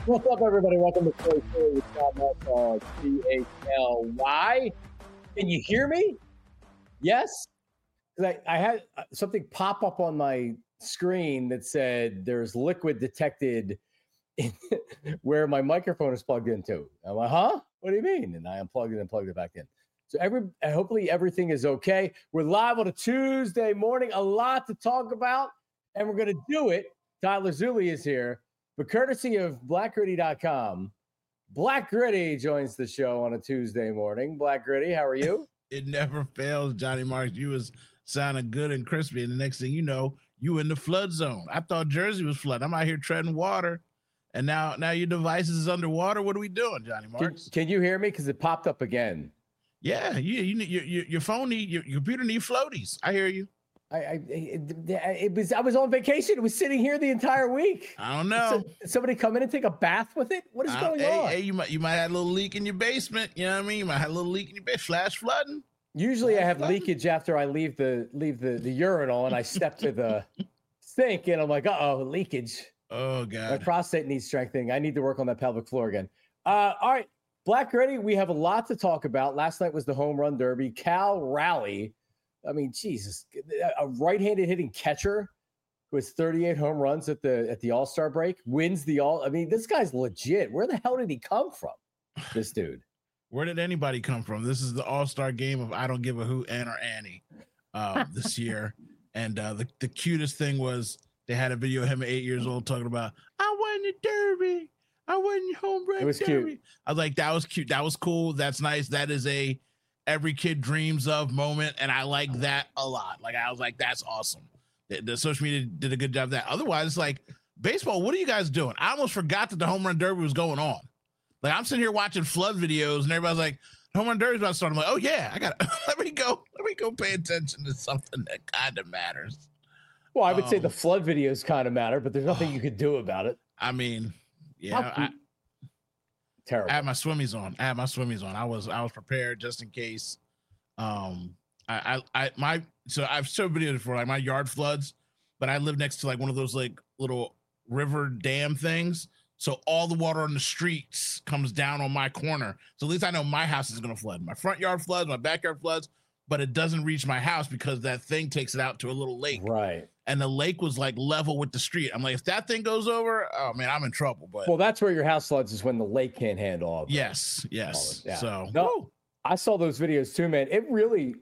What's up, everybody? Welcome to Philly with John CHLY. Can you hear me? Yes? Because I had something pop up on my screen that said there's liquid detected where my microphone is plugged into. I'm like, huh? What do you mean? And I unplugged it and plugged it back in. So hopefully everything is okay. We're live on a Tuesday morning. A lot to talk about, and we're going to do it. Tyler Zulli is here. But courtesy of BlackGritty.com, Black Gritty joins the show on a Tuesday morning. Black Gritty, how are you? It never fails, Johnny Marks. You was sounding good and crispy, and the next thing you know, you in the flood zone. I thought Jersey was flooding. I'm out here treading water, and now your device is underwater. What are we doing, Johnny Marks? Can you hear me? Because it popped up again. Yeah, your phone your computer need floaties. I hear you. I was on vacation. It was sitting here the entire week. I don't know. Did somebody come in and take a bath with it? What is going on? Hey, you might have a little leak in your basement. You know what I mean? You might have a little leak in your basement. Flash flooding. Usually, I have leakage after I leave the urinal and I step to the sink and I'm like, leakage. Oh God. My prostate needs strengthening. I need to work on that pelvic floor again. All right, Black Gritty, we have a lot to talk about. Last night was the home run derby. Cal Raleigh. I mean, Jesus, a right-handed hitting catcher who has 38 home runs at the All-Star break wins the All. I mean, this guy's legit. Where the hell did he come from? This dude. Where did anybody come from? This is the All-Star game of I don't give a hoot, Ann or Annie this year. And the cutest thing was they had a video of him at 8 years old talking about, I won the derby. I won the home run derby. It was cute. I was like, that was cute. That was cool. That's nice. That is a every kid dreams of moment, and I like that a lot. Like, I was like, that's awesome. The social media did a good job of that. Otherwise, it's like, baseball, what are you guys doing? I almost forgot that the home run derby was going on. Like, I'm sitting here watching flood videos, and everybody's like, home run derby's about to start. I'm like, oh yeah, I got let me go pay attention to something that kind of matters. Well, I would say the flood videos kind of matter, but there's nothing you could do about it. I mean, yeah, terrible. I had my swimmies on. I was prepared just in case. So I've showed videos before, like my yard floods, but I live next to like one of those like little river dam things. So all the water on the streets comes down on my corner. So at least I know my house is going to flood. My front yard floods, my backyard floods, but it doesn't reach my house because that thing takes it out to a little lake. Right. And the lake was like level with the street. I'm like, if that thing goes over, oh man, I'm in trouble. But well, that's where your house floods, is when the lake can't handle all of it. Yes. Yeah. So no, I saw those videos too, man. It really,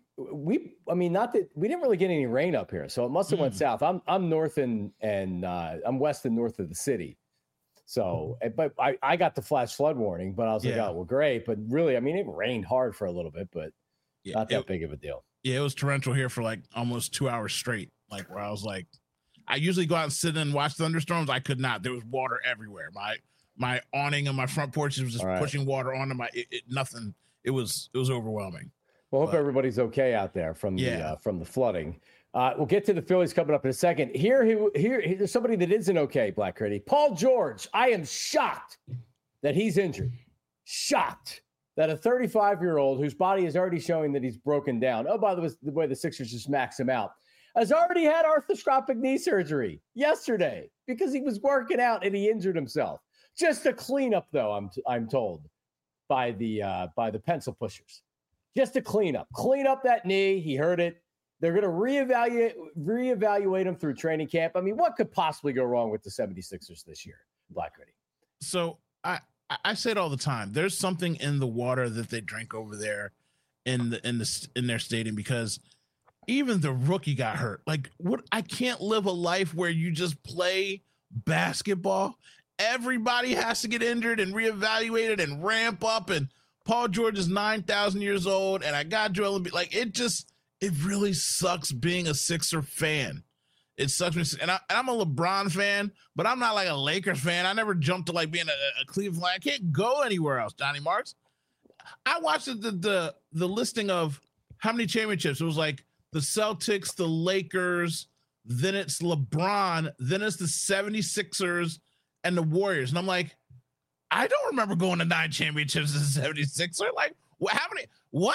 not that we didn't really get any rain up here, so it must have went south. I'm north and I'm west and north of the city. So, but I got the flash flood warning, but I was like, oh, well, great. But really, I mean, it rained hard for a little bit, but not that big of a deal. Yeah, it was torrential here for like almost 2 hours straight. Like, where I was like, I usually go out and sit and watch thunderstorms. I could not. There was water everywhere. My awning on my front porch was just pushing water onto nothing. It was overwhelming. Well, hope everybody's okay out there from the flooding. We'll get to the Phillies coming up in a second. Here's somebody that isn't okay, Black Gritty. Paul George. I am shocked that he's injured. Shocked that a 35-year-old whose body is already showing that he's broken down. Oh, by the way, the Sixers just maxed him out. Has already had arthroscopic knee surgery yesterday because he was working out and he injured himself. Just a cleanup, though, I'm told by the pencil pushers. Just a cleanup. Clean up that knee. He hurt it. They're going to reevaluate him through training camp. I mean, what could possibly go wrong with the 76ers this year, Black Gritty? So I say it all the time. There's something in the water that they drink over there in their stadium, because even the rookie got hurt. Like, what? I can't live a life where you just play basketball. Everybody has to get injured and reevaluated and ramp up. And Paul George is 9,000 years old, and I got Joel Embiid. Like, it really sucks being a Sixer fan. It sucks me, and I'm a LeBron fan, but I'm not like a Lakers fan. I never jumped to like being a Cleveland. I can't go anywhere else, Johnny Marks. I watched the listing of how many championships. It was like the Celtics, the Lakers, then it's LeBron, then it's the 76ers and the Warriors. And I'm like, I don't remember going to 9 championships as a 76er. Like, how many? What?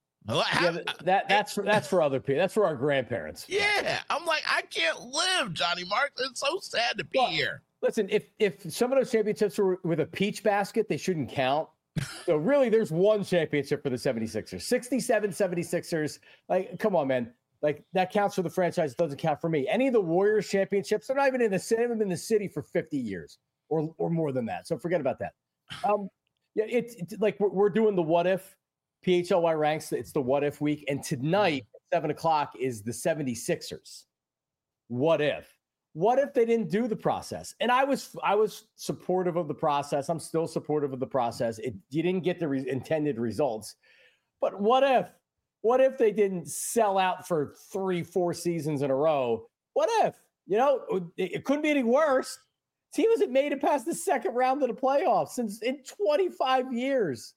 That's for other people. That's for our grandparents. Yeah. I'm like, I can't live, Johnny Marks. It's so sad to be here. Listen, if some of those championships were with a peach basket, they shouldn't count. So really, there's one championship for the 76ers. 67 76ers. Like, come on, man. Like, that counts for the franchise. It doesn't count for me. Any of the Warriors championships, they're not even in the city. They haven't been in the city for 50 years or more than that. So forget about that. Yeah, it's like we're doing the what if PHLY ranks. It's the what if week. And tonight at 7:00 is the 76ers. What if? What if they didn't do the process? And I was supportive of the process. I'm still supportive of the process. You didn't get the intended results. But what if they didn't sell out for 3-4 seasons in a row? What if? It couldn't be any worse. Team hasn't made it past the second round of the playoffs since in 25 years.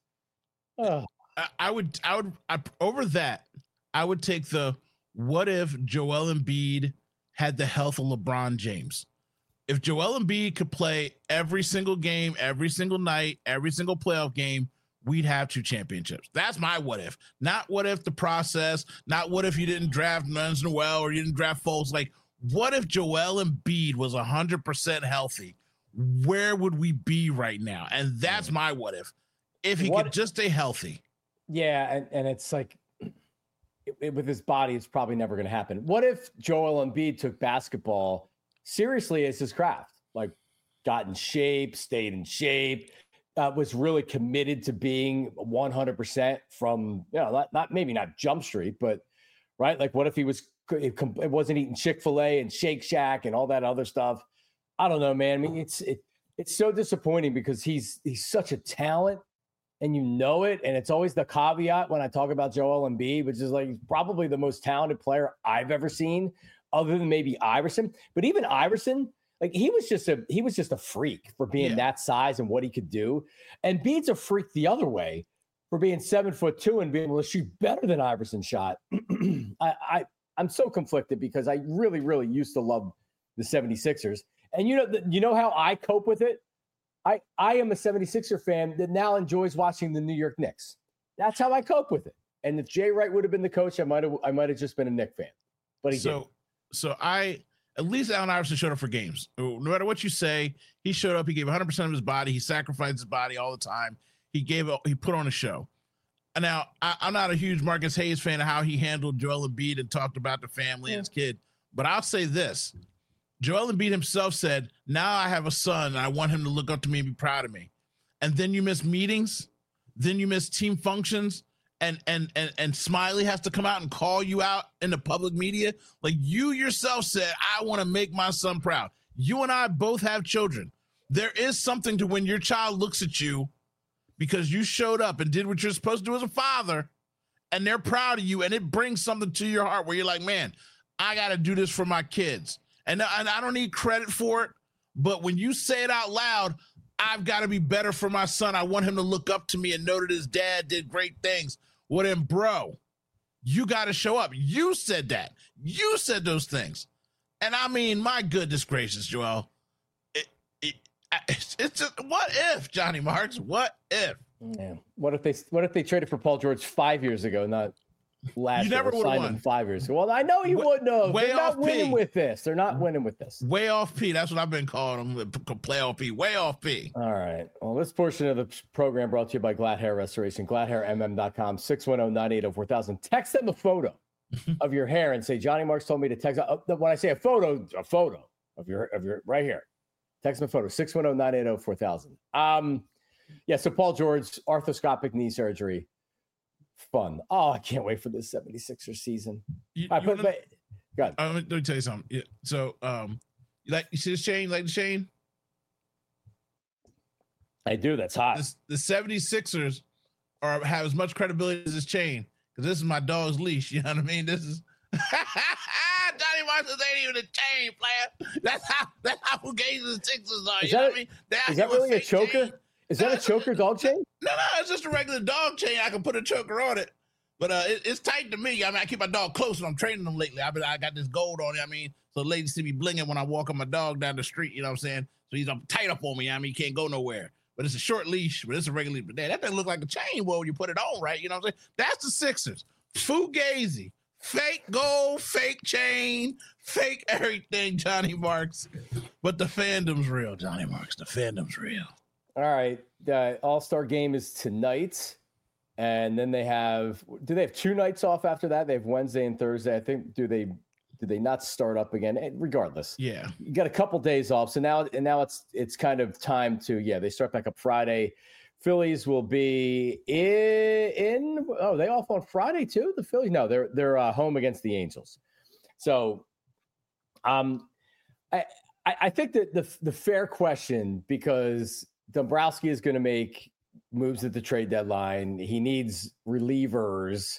I would over that. I would take the what if Joel Embiid had the health of LeBron James. If Joel Embiid could play every single game, every single night, every single playoff game, we'd have 2 championships. That's my what if. Not what if the process, not what if you didn't draft Nerlens Noel or you didn't draft Fultz. Like, what if Joel Embiid was 100% healthy? Where would we be right now? And that's my what if he could just stay healthy. Yeah, and it's like, with his body, it's probably never going to happen. What if Joel Embiid took basketball seriously as his craft? Like, got in shape, stayed in shape, was really committed to being 100% from, maybe not Jump Street, but right. Like, what if it wasn't eating Chick-fil-A and Shake Shack and all that other stuff? I don't know, man. I mean, it's so disappointing because he's such a talent. And it, and it's always the caveat when I talk about Joel Embiid, which is like probably the most talented player I've ever seen, other than maybe Iverson. But even Iverson, like he was just a freak for being that size and what he could do. And Embiid's a freak the other way for being 7'2" and being able to shoot better than Iverson shot. I'm so conflicted because I really, really used to love the 76ers. And you know how I cope with it? I am a 76er fan that now enjoys watching the New York Knicks. That's how I cope with it. And if Jay Wright would have been the coach, I might have just been a Knicks fan. But he didn't. So at least Allen Iverson showed up for games. No matter what you say, he showed up. He gave 100% of his body. He sacrificed his body all the time. He put on a show. And now I'm not a huge Marcus Hayes fan of how he handled Joel Embiid and talked about the family and his kid. But I'll say this. Joel Embiid himself said, now I have a son and I want him to look up to me and be proud of me. And then you miss meetings, then you miss team functions, and Smiley has to come out and call you out in the public media. Like, you yourself said, I want to make my son proud. You and I both have children. There is something to when your child looks at you because you showed up and did what you're supposed to do as a father, and they're proud of you, and it brings something to your heart where you're like, man, I got to do this for my kids. And I don't need credit for it, but when you say it out loud, I've got to be better for my son. I want him to look up to me and know that his dad did great things. Well, then, bro, you got to show up. You said that. You said those things. And I mean, my goodness gracious, Joel. It's just, what if, Johnny Marks? What if? Yeah. What if they traded for Paul George 5 years ago, not last year? You never would have won 5 years ago. Well, I know you wouldn't have. They're not winning with this. They're not winning with this. Way off P. That's what I've been calling them. Playoff P. Way off P. All right. Well, this portion of the program brought to you by Glad Hair Restoration. GladHairMM.com. 610-980-4000. Text them a photo of your hair and say, Johnny Marks told me to text. When I say a photo of your right here. Text them a photo. 610-980-4000. Yeah. So Paul George, arthroscopic knee surgery. Fun. Oh, I can't wait for this 76er season. Let me tell you something. Yeah, so, you see this chain? Like the chain? I do. That's hot. The 76ers have as much credibility as this chain because this is my dog's leash. You know what I mean? This is Johnny Marks ain't even a chain player. That's how fugazi the Sixers are. You know what I mean? Is that really a choker? Chain. Is that a choker dog chain? No, it's just a regular dog chain. I can put a choker on it, but it's tight to me. I mean, I keep my dog close when I'm training them lately. I got this gold on it. I mean, so ladies see me blinging when I walk on my dog down the street. You know what I'm saying? So he's tight up on me. I mean, he can't go nowhere. But it's a short leash, but it's a regular leash. But that doesn't look like a chain. Well, when you put it on, right? You know what I'm saying? That's the Sixers. Fugazi. Fake gold, fake chain, fake everything, Johnny Marks. But the fandom's real, Johnny Marks. The fandom's real. All right. The All-Star game is tonight. And then do they have 2 nights off after that? They have Wednesday and Thursday. I think, do they not start up again? Regardless. Yeah. You got a couple days off. So now it's kind of time to, they start back up Friday. Phillies will be they off on Friday too? The Phillies? No, they're home against the Angels. So I think that the fair question, because Dombrowski is going to make moves at the trade deadline. He needs relievers.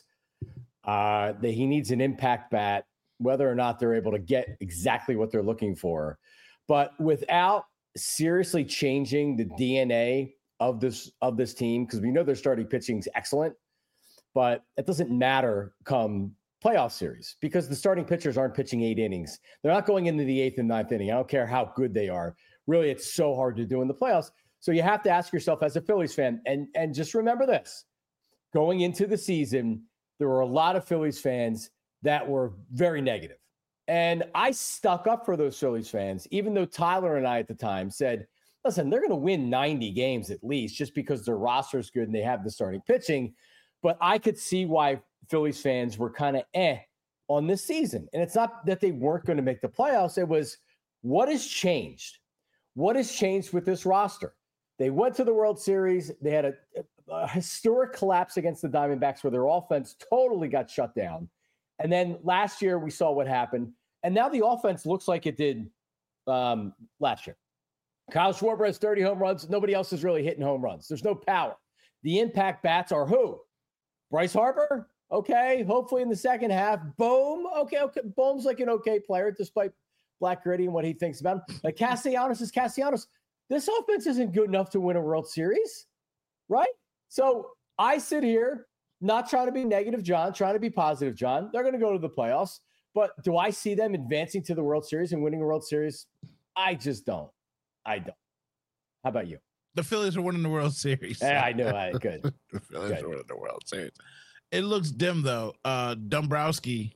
He needs an impact bat, whether or not they're able to get exactly what they're looking for. But without seriously changing the DNA of this team, because we know their starting pitching is excellent, but it doesn't matter come playoff series because the starting pitchers aren't pitching 8 innings. They're not going into the 8th and 9th inning. I don't care how good they are. Really, it's so hard to do in the playoffs. So you have to ask yourself as a Phillies fan, and just remember this, going into the season, there were a lot of Phillies fans that were very negative. And I stuck up for those Phillies fans, even though Tyler and I at the time said, listen, they're going to win 90 games at least just because their roster is good and they have the starting pitching. But I could see why Phillies fans were kind of on this season. And it's not that they weren't going to make the playoffs. It was, what has changed? What has changed with this roster? They went to the World Series. They had a historic collapse against the Diamondbacks where their offense totally got shut down. And then last year we saw what happened. And now the offense looks like it did last year. Kyle Schwarber has 30 home runs. Nobody else is really hitting home runs. There's no power. The impact bats are who? Bryce Harper? Okay. Hopefully in the second half. Bohm? Okay. Bohm's like an okay player despite Black Gritty and what he thinks about him. Like Castellanos is Castellanos. This offense isn't good enough to win a World Series, right? So I sit here not trying to be negative, John, trying to be positive, John. They're going to go to the playoffs. But do I see them advancing to the World Series and winning a World Series? I just don't. I don't. How about you? The Phillies are winning the World Series. Yeah, I know. Good. The Phillies are winning the World Series. It looks dim, though. Dombrowski.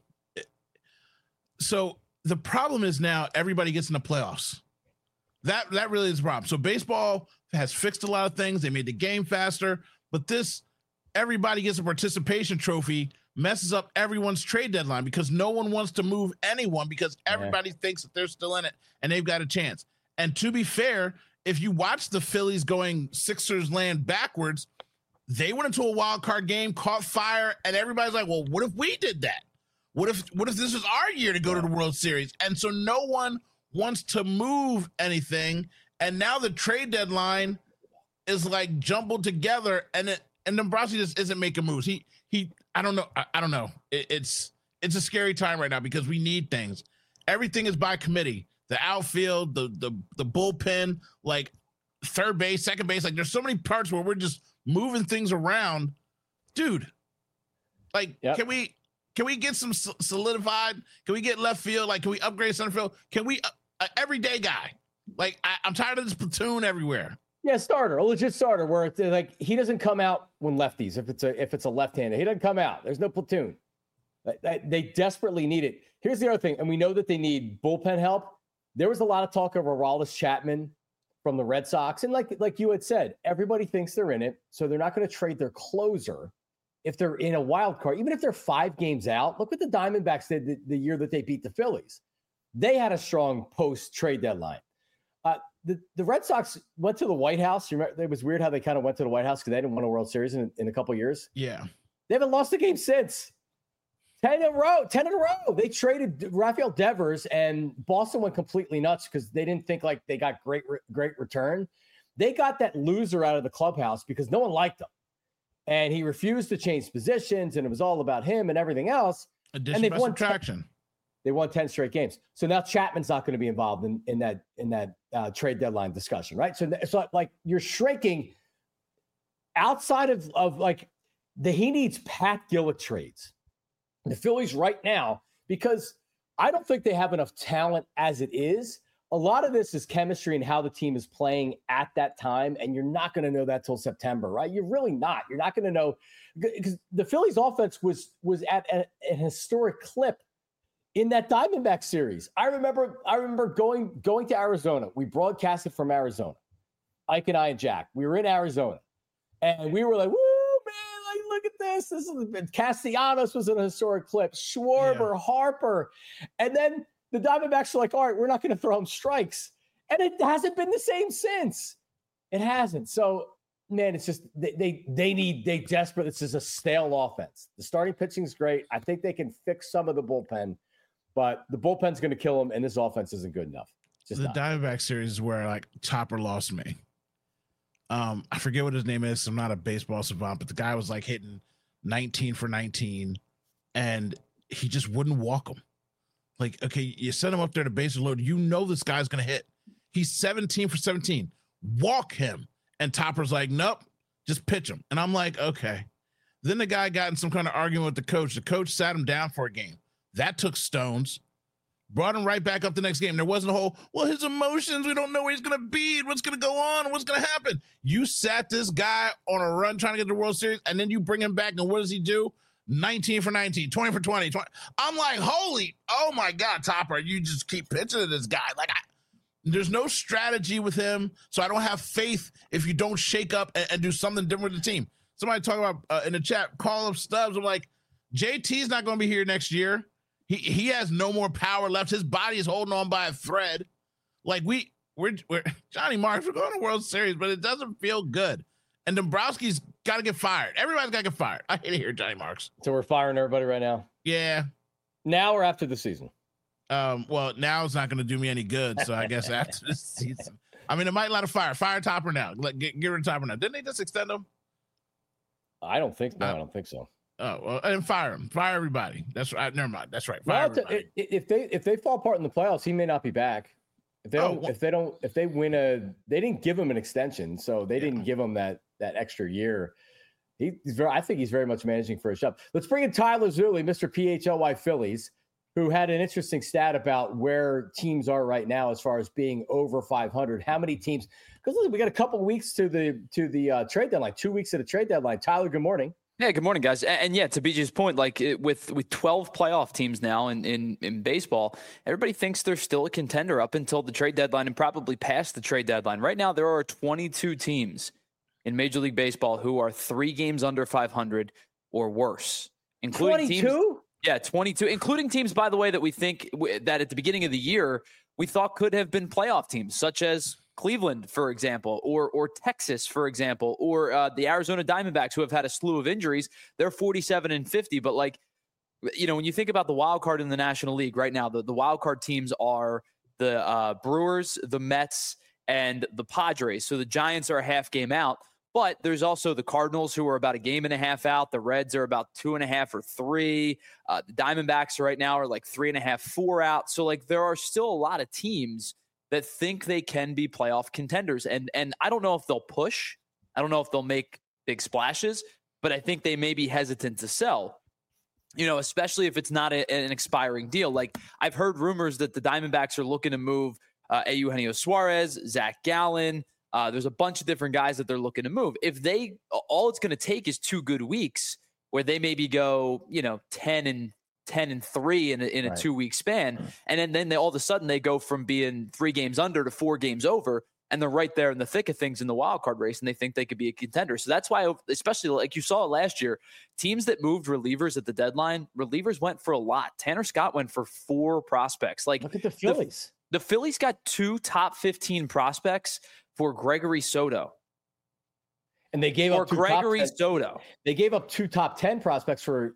So the problem is now everybody gets in the playoffs. That really is the problem. So baseball has fixed a lot of things. They made the game faster. But this, everybody gets a participation trophy, messes up everyone's trade deadline because no one wants to move anyone because everybody thinks that they're still in it and they've got a chance. And to be fair, if you watch the Phillies going Sixers land backwards, they went into a wild card game, caught fire, and everybody's like, well, what if we did that? What if this was our year to go to the World Series? And so no one wants to move anything. And now the trade deadline is like jumbled together and Dombrowski just isn't making moves. He I don't know. I don't know. It's a scary time right now because we need things. Everything is by committee. The outfield, the bullpen, like third base, second base. Like there's so many parts where we're just moving things around. Dude, like, can we get some solidified? Can we get left field? Like, can we upgrade center field? Can we everyday guy? Like, I'm tired of this platoon everywhere. Yeah, starter, a legit starter where it's like he doesn't come out when lefties. If it's a left-hander, he doesn't come out. There's no platoon. They desperately need it. Here's the other thing, and we know that they need bullpen help. There was a lot of talk of Aroldis Chapman from the Red Sox, and like you had said, everybody thinks they're in it, so they're not going to trade their closer if they're in a wild card. Even if they're 5 games out, look what the Diamondbacks did the year that they beat the Phillies. They had a strong post-trade deadline. The Red Sox went to the White House. You remember, it was weird how they kind of went to the White House because they didn't win a World Series in a couple of years. Yeah. They haven't lost a game since. 10 in a row. They traded Rafael Devers, and Boston went completely nuts because they didn't think like they got great return. They got that loser out of the clubhouse because no one liked him. And he refused to change positions, and it was all about him and everything else. Addition by subtraction. They won 10 straight games. So now Chapman's not going to be involved in that trade deadline discussion, right? So it's like you're shrinking outside of like he needs Pat Gillick trades. The Phillies right now, because I don't think they have enough talent as it is. a lot of this is chemistry and how the team is playing at that time. And you're not going to know that till September, right? You're really not. You're not going to know, because the Phillies offense was at an historic clip in that Diamondback series. I remember going to Arizona. We broadcasted from Arizona. Ike and I and Jack. We were in Arizona. And we were like, woo, man, like, look at this. This is Castellanos was in a historic clip. Schwarber, Harper. And then the Diamondbacks are like, all right, we're not going to throw him strikes. And it hasn't been the same since. It hasn't. So, man, it's just they desperate. This is a stale offense. The starting pitching is great. I think they can fix some of the bullpen, but the bullpen's going to kill them, and this offense isn't good enough. Just the Diamondback series is where like Topper lost me. I forget what his name is. I'm not a baseball savant, but the guy was like hitting 19 for 19, and he just wouldn't walk him. Like, okay, you set him up there to base load. You know this guy's going to hit. He's 17 for 17. Walk him. And Topper's like, nope, just pitch him. And I'm like, okay. Then the guy got in some kind of argument with the coach. The coach sat him down for a game. That took stones. Brought him right back up the next game. There wasn't a whole, well, his emotions, we don't know where he's going to be, what's going to go on, what's going to happen. You sat this guy on a run trying to get the World Series, and then you bring him back, and what does he do? 19 for 19, 20 for 20. I'm like, oh my God, Topper, you just keep pitching to this guy. Like, there's no strategy with him, so I don't have faith if you don't shake up and do something different with the team. Somebody talking about in the chat, call up Stubbs. I'm like, JT's not going to be here next year. He has no more power left. His body is holding on by a thread. Like we're Johnny Marks, we're going to World Series, but it doesn't feel good. And Dombrowski's got to get fired. Everybody's got to get fired. I hate to hear Johnny Marks. So we're firing everybody right now? Yeah. Now or after the season? Well, now it's not going to do me any good. So I guess after this season. I mean, it might let a fire. Fire Topper now. Get rid of Topper now. Didn't they just extend him? I don't think so. Oh, well, and fire him. Fire everybody. That's right. Never mind. That's right. Fire everybody. If they fall apart in the playoffs, he may not be back. If they win they didn't give him an extension, so they didn't give him that extra year. I think he's very much managing for a job. Let's bring in Tyler Zulli, Mr. PHLY Phillies, who had an interesting stat about where teams are right now as far as being over 500. How many teams? Because listen, we got a couple of weeks to the trade deadline. 2 weeks to the trade deadline. Tyler, good morning. Yeah, good morning, guys. And yeah, to BJ's point, like with 12 playoff teams now in baseball, everybody thinks they're still a contender up until the trade deadline and probably past the trade deadline. Right now, there are 22 teams in Major League Baseball who are 3 games under 500 or worse, including 22? teams. Yeah, 22, including teams, by the way, that we think that at the beginning of the year we thought could have been playoff teams, such as Cleveland, for example, or Texas, for example, or the Arizona Diamondbacks, who have had a slew of injuries. They're 47-50. But like, when you think about the wild card in the National League right now, the wild card teams are the Brewers, the Mets, and the Padres. So the Giants are a half game out. But there's also the Cardinals, who are about a game and a half out. The Reds are about 2.5 or 3. The Diamondbacks right now are like 3.5, 4 out. So like, there are still a lot of teams that think they can be playoff contenders. And I don't know if they'll push. I don't know if they'll make big splashes, but I think they may be hesitant to sell, especially if it's not an expiring deal. Like, I've heard rumors that the Diamondbacks are looking to move Eugenio Suarez, Zach Gallen. There's a bunch of different guys that they're looking to move. If all it's going to take is 2 good weeks where they maybe go, 10-3 in a 2-week span. And then all of a sudden they go from being 3 games under to 4 games over, and they're right there in the thick of things in the wild card race, and they think they could be a contender. So that's why, especially like you saw last year, teams that moved relievers at the deadline, relievers went for a lot. Tanner Scott went for 4 prospects. Like, look at the Phillies. The Phillies got 2 top 15 prospects for Gregory Soto. And they gave up Gregory Soto. They gave up 2 top 10 prospects for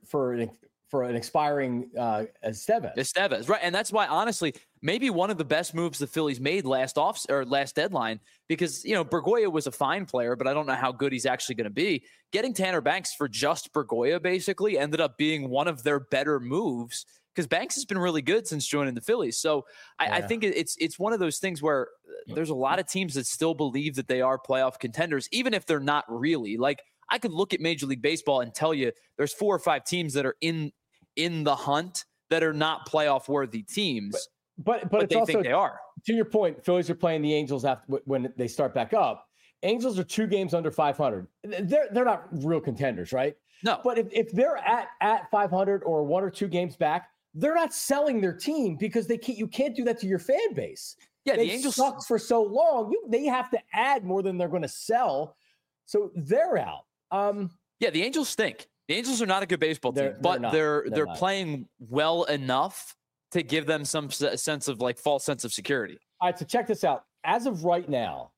an expiring Estevez. Right. And that's why, honestly, maybe one of the best moves the Phillies made last deadline, because, Bergoya was a fine player, but I don't know how good he's actually going to be. Getting Tanner Banks for just Bergoya basically ended up being one of their better moves, because Banks has been really good since joining the Phillies. So I think it's one of those things where there's a lot of teams that still believe that they are playoff contenders, even if they're not really. Like, I could look at Major League Baseball and tell you there's 4 or 5 teams that are in the hunt that are not playoff worthy teams, but they think they are. to your point, Phillies are playing the Angels after when they start back up. Angels are 2 games under 500. They're not real contenders, right? No. But if they're at 500 or 1 or 2 games back, they're not selling their team because you can't do that to your fan base. Yeah, the Angels sucked for so long. They have to add more than they're going to sell, so they're out. Yeah, the Angels stink. The Angels are not a good baseball team, but they're playing well enough to give them some sense of false sense of security. All right, so check this out. As of right now,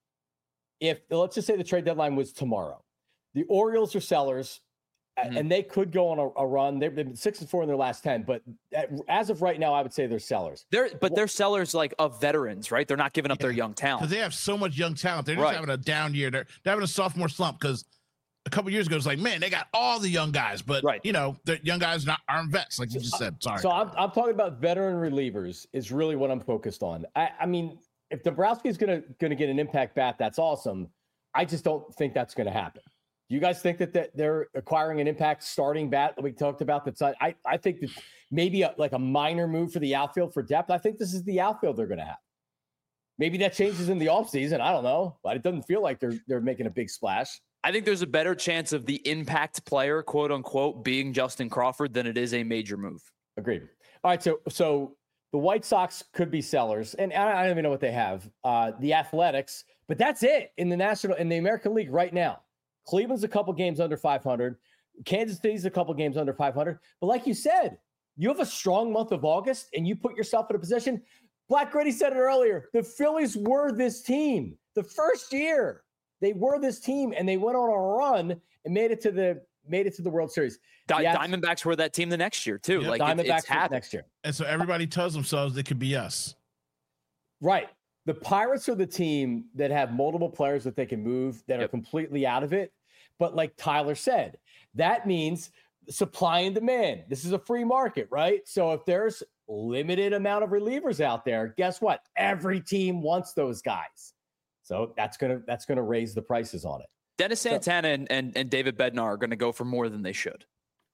if let's just say the trade deadline was tomorrow, the Orioles are sellers, and they could go on a run. They've been 6-4 in their last 10, but as of right now, I would say they're sellers. They're sellers of veterans, right? They're not giving up their young talent because they have so much young talent. They're just having a down year. They're having a sophomore slump because a couple years ago, it's like, man, they got all the young guys, but the young guys aren't vets, like you just said. Sorry. So I'm talking about veteran relievers is really what I'm focused on. I mean, if Dombrowski is going to get an impact bat, that's awesome. I just don't think that's going to happen. Do you guys think that they're acquiring an impact starting bat that we talked about? I think that maybe a minor move for the outfield for depth. I think this is the outfield they're going to have. Maybe that changes in the offseason. I don't know, but it doesn't feel like they're making a big splash. I think there's a better chance of the impact player, quote unquote, being Justin Crawford than it is a major move. Agreed. All right. So the White Sox could be sellers, and I don't even know what they have. The Athletics, but that's it in the American League right now. Cleveland's a couple games under 500. Kansas City's a couple games under 500. But like you said, you have a strong month of August, and you put yourself in a position. Black Gritty said it earlier. The Phillies were this team. The first year, they were this team, and they went on a run and made it to the World Series. Diamondbacks were that team the next year too. Yep. Diamondbacks next year, and so everybody tells themselves it could be us. Right. The Pirates are the team that have multiple players that they can move that are completely out of it. But like Tyler said, that means supply and demand. This is a free market, right? So if there's limited amount of relievers out there, guess what? Every team wants those guys. So that's gonna raise the prices on it. Dennis Santana and David Bednar are going to go for more than they should.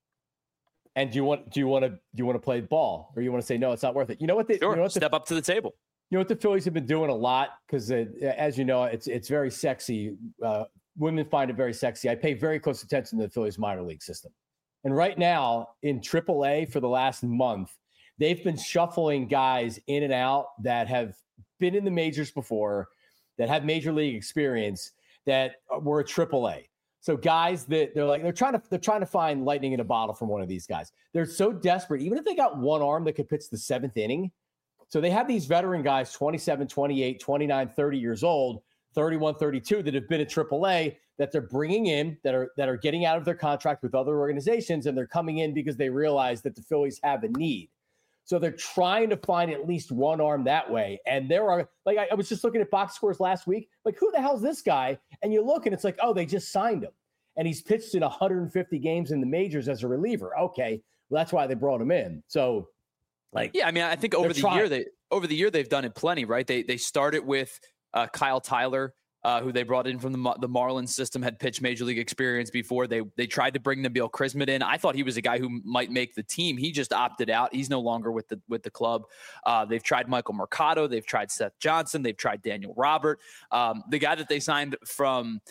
And do you want to play ball, or you want to say no, it's not worth it? You know what? Step up to the table. You know what the Phillies have been doing a lot, because as you know, it's very sexy. Women find it very sexy. I pay very close attention to the Phillies minor league system, and right now in AAA for the last month, they've been shuffling guys in and out that have been in the majors before, that have major league experience, that were at AAA. So guys that they're trying to find lightning in a bottle from one of these guys. They're so desperate, even if they got one arm that could pitch the 7th inning. So they have these veteran guys, 27, 28, 29, 30 years old, 31, 32, that have been at AAA, that they're bringing in, that are getting out of their contract with other organizations, and they're coming in because they realize that the Phillies have a need. So they're trying to find at least one arm that way. And there are, I was just looking at box scores last week, who the hell's this guy? And you look and it's like, oh, they just signed him. And he's pitched in 150 games in the majors as a reliever. Okay, well, that's why they brought him in. So, I think over the year they've done it plenty, right? They started with Kyle Tyler, who they brought in from the Marlins system, had pitched major league experience before. They tried to bring Nabil Krismet in. I thought he was a guy who might make the team. He just opted out. He's no longer with the club. They've tried Michael Mercado. They've tried Seth Johnson. They've tried Daniel Robert. The guy that they signed from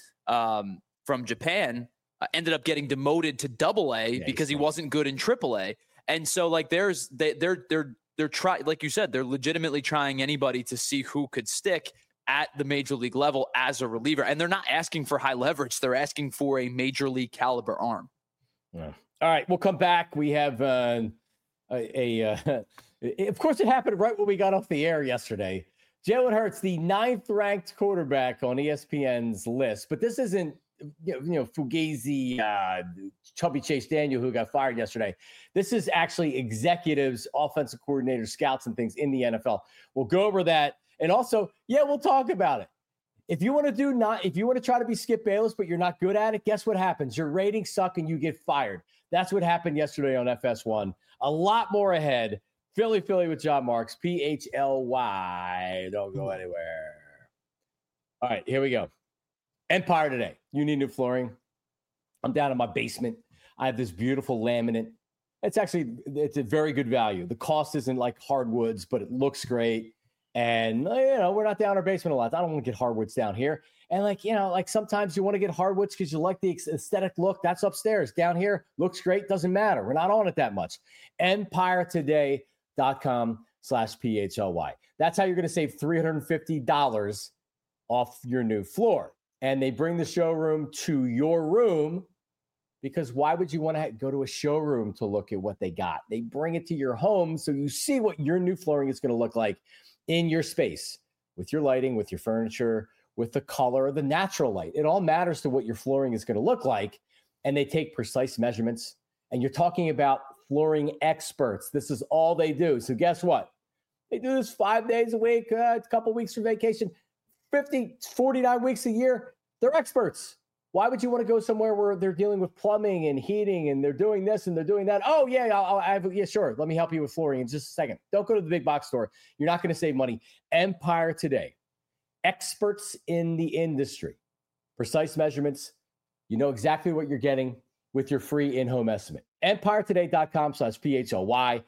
Japan ended up getting demoted to AA because he wasn't good in AAA. And so they're trying, like you said, they're legitimately trying anybody to see who could stick at the major league level as a reliever. And they're not asking for high leverage. They're asking for a major league caliber arm. Yeah. All right, we'll come back. We have of course it happened right when we got off the air yesterday. Jalen Hurts, the 9th ranked quarterback on ESPN's list, but this isn't, Fugazi, Chubby Chase Daniel, who got fired yesterday. This is actually executives, offensive coordinators, scouts, and things in the NFL. We'll go over that. And also, we'll talk about it. If you want to try to be Skip Bayless, but you're not good at it, guess what happens? Your ratings suck and you get fired. That's what happened yesterday on FS1. A lot more ahead. Philly with John Marks, PHLY. Don't go anywhere. All right, here we go. Empire Today. You need new flooring. I'm down in my basement. I have this beautiful laminate. It's a very good value. The cost isn't like hardwoods, but it looks great. And, we're not down our basement a lot. I don't want to get hardwoods down here. And sometimes you want to get hardwoods because you like the aesthetic look. That's upstairs. Down here, looks great. Doesn't matter. We're not on it that much. EmpireToday.com/PHLY. That's how you're going to save $350 off your new floor. And they bring the showroom to your room, because why would you want to go to a showroom to look at what they got? They bring it to your home so you see what your new flooring is going to look like in your space, with your lighting, with your furniture, with the color, the natural light. It all matters to what your flooring is going to look like. And they take precise measurements. And you're talking about flooring experts. This is all they do. So guess what? They do this 5 days a week, a couple weeks for vacation, 49 weeks a year. They're experts. Why would you want to go somewhere where they're dealing with plumbing and heating and they're doing this and they're doing that? Oh, yeah, yeah, sure. Let me help you with flooring in just a second. Don't go to the big box store. You're not going to save money. Empire Today. Experts in the industry. Precise measurements. You know exactly what you're getting with your free in-home estimate. EmpireToday.com/PHLY.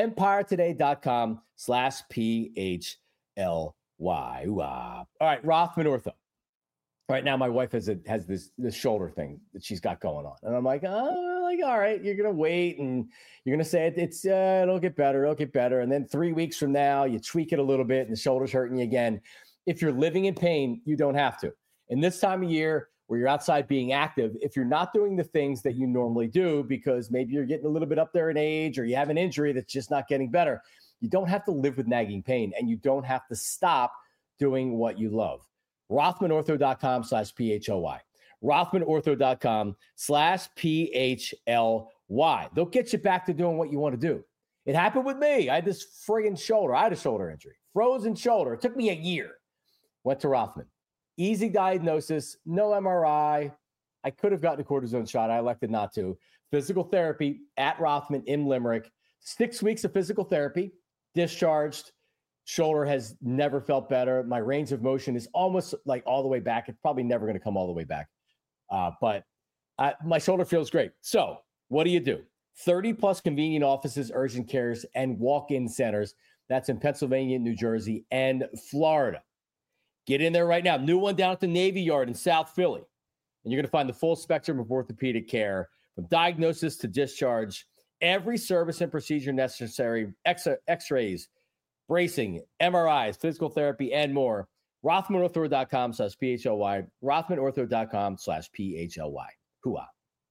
EmpireToday.com/PHLY. All right, Rothman Ortho. Right now, my wife has this shoulder thing that she's got going on. And I'm like, all right, you're going to wait and you're going to say it'll get better. It'll get better. And then 3 weeks from now, you tweak it a little bit and the shoulder's hurting you again. If you're living in pain, you don't have to. In this time of year where you're outside being active, if you're not doing the things that you normally do because maybe you're getting a little bit up there in age or you have an injury that's just not getting better, you don't have to live with nagging pain and you don't have to stop doing what you love. RothmanOrtho.com/PHLY. RothmanOrtho.com/PHLY. They'll get you back to doing what you want to do. It happened with me. I had this friggin' shoulder. I had a shoulder injury, frozen shoulder. It took me a year. Went to Rothman. Easy diagnosis, no MRI. I could have gotten a cortisone shot. I elected not to. Physical therapy at Rothman in Limerick. 6 weeks of physical therapy, discharged. Shoulder has never felt better. My range of motion is almost like all the way back. It's probably never going to come all the way back. But my shoulder feels great. So what do? 30 plus convenient offices, urgent cares, and walk-in centers. That's in Pennsylvania, New Jersey, and Florida. Get in there right now. New one down at the Navy Yard in South Philly. And you're going to find the full spectrum of orthopedic care, from diagnosis to discharge, every service and procedure necessary, x-rays, bracing, MRIs, physical therapy, and more. RothmanOrtho.com/PHLY. RothmanOrtho.com/PHLY. Hooah.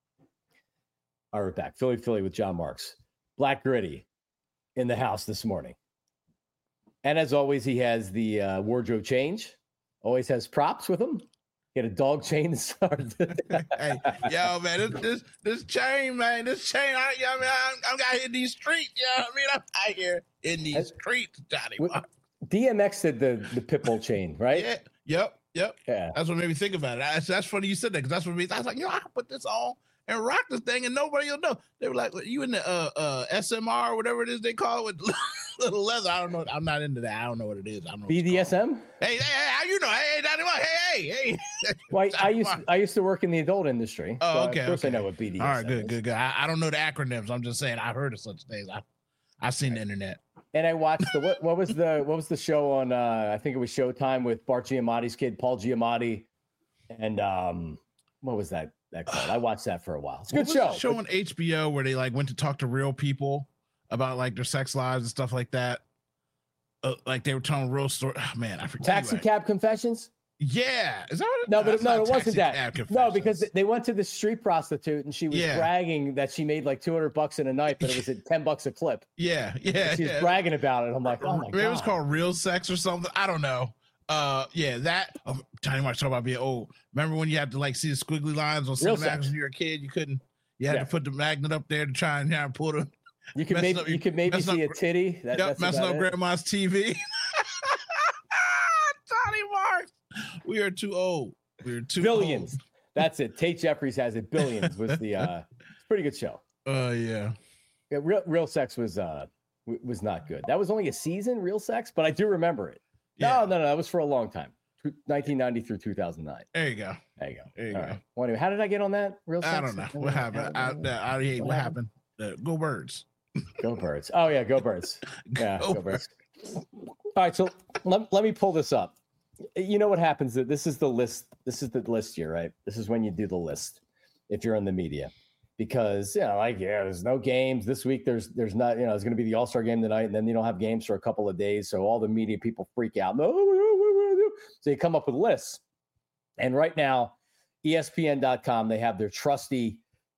All right, we're back. Philly with John Marks. Black Gritty in the house this morning. And as always, he has the wardrobe change. Always has props with him. He had a dog chain to start. Hey, yo, man, this chain, man, I'm out here in these streets. I'm out here in these streets, Johnny. DMX did the Pitbull chain, right? Yeah, yep. Yeah. That's what made me think about it. That's funny you said that, because that's what made me. I was like, I can put this on and rock this thing, and nobody will know. They were like, you in the SMR or whatever it is they call it with little leather. I don't know. I'm not into that. I don't know what it is. I don't know. BDSM? Hey, how you know? Hey, hey. Well, I used to work in the adult industry. Oh, okay. Of course, I know what BDSM is. All right, good. I don't know the acronyms. I'm just saying I've heard of such things. I've seen the internet. And I watched what was the show on I think it was Showtime with Bart Giamatti's kid, Paul Giamatti, and what was that called? I watched that for a while. It's a good show. The show on HBO where they went to talk to real people about their sex lives and stuff like that. They were telling real story. Oh, man, I forget. Taxi Cab Confessions. Yeah, is that what No, it wasn't that. No, because they went to the street prostitute and she was bragging that she made like $200 in a night, but it was at $10 a clip. Yeah. She's bragging about it. I'm like, oh my God. It was called Real Sex or something. I don't know. That Johnny Marks talk about being old. Remember when you had to see the squiggly lines on Cinemax when you were a kid? You had to put the magnet up there to try and pull them. You could maybe see a titty. That's messing up grandma's TV. Johnny Marks. We are too old. Billions. Old. That's it. Tate Jeffries has it. Billions was the pretty good show. Yeah. Real Sex was not good. That was only a season, Real Sex, but I do remember it. Yeah. No, that was for a long time. 1990 through 2009. There you go. Right. Well, anyway, how did I get on that? Real Sex? I don't know. What happened? What happened? Go Birds. Go Birds. Oh yeah, go Birds. Yeah, go Birds. All right, so let me pull this up. You know what happens? This is the list. This is the list here, right? This is when you do the list if you're in the media. Because, there's no games this week. There's not, there's going to be the All-Star game tonight, and then you don't have games for a couple of days. So all the media people freak out. So you come up with lists. And right now, ESPN.com, they have their trusty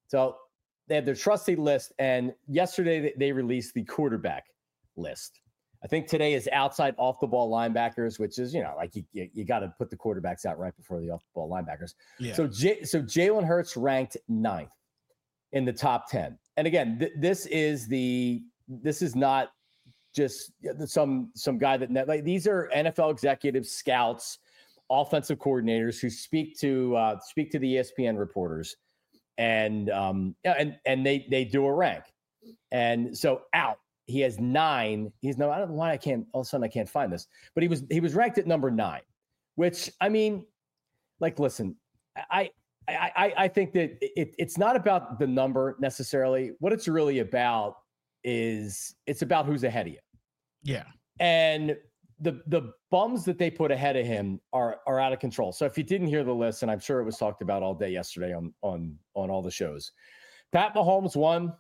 list. And yesterday they released the quarterback list. I think today is outside off the ball linebackers, which is, you got to put the quarterbacks out right before the off the ball linebackers. Yeah. So Jalen Hurts ranked 9th in the top 10. And again, this is not just some guy that these are NFL executives, scouts, offensive coordinators who speak to the ESPN reporters, and they do a rank. And so he has 9. I don't know why I can't find this, but he was ranked at number 9, which, I mean, listen, I think that it's not about the number necessarily. What it's really about is it's about who's ahead of you. Yeah. And the bums that they put ahead of him are out of control. So if you didn't hear the list, and I'm sure it was talked about all day yesterday on all the shows, Pat Mahomes won.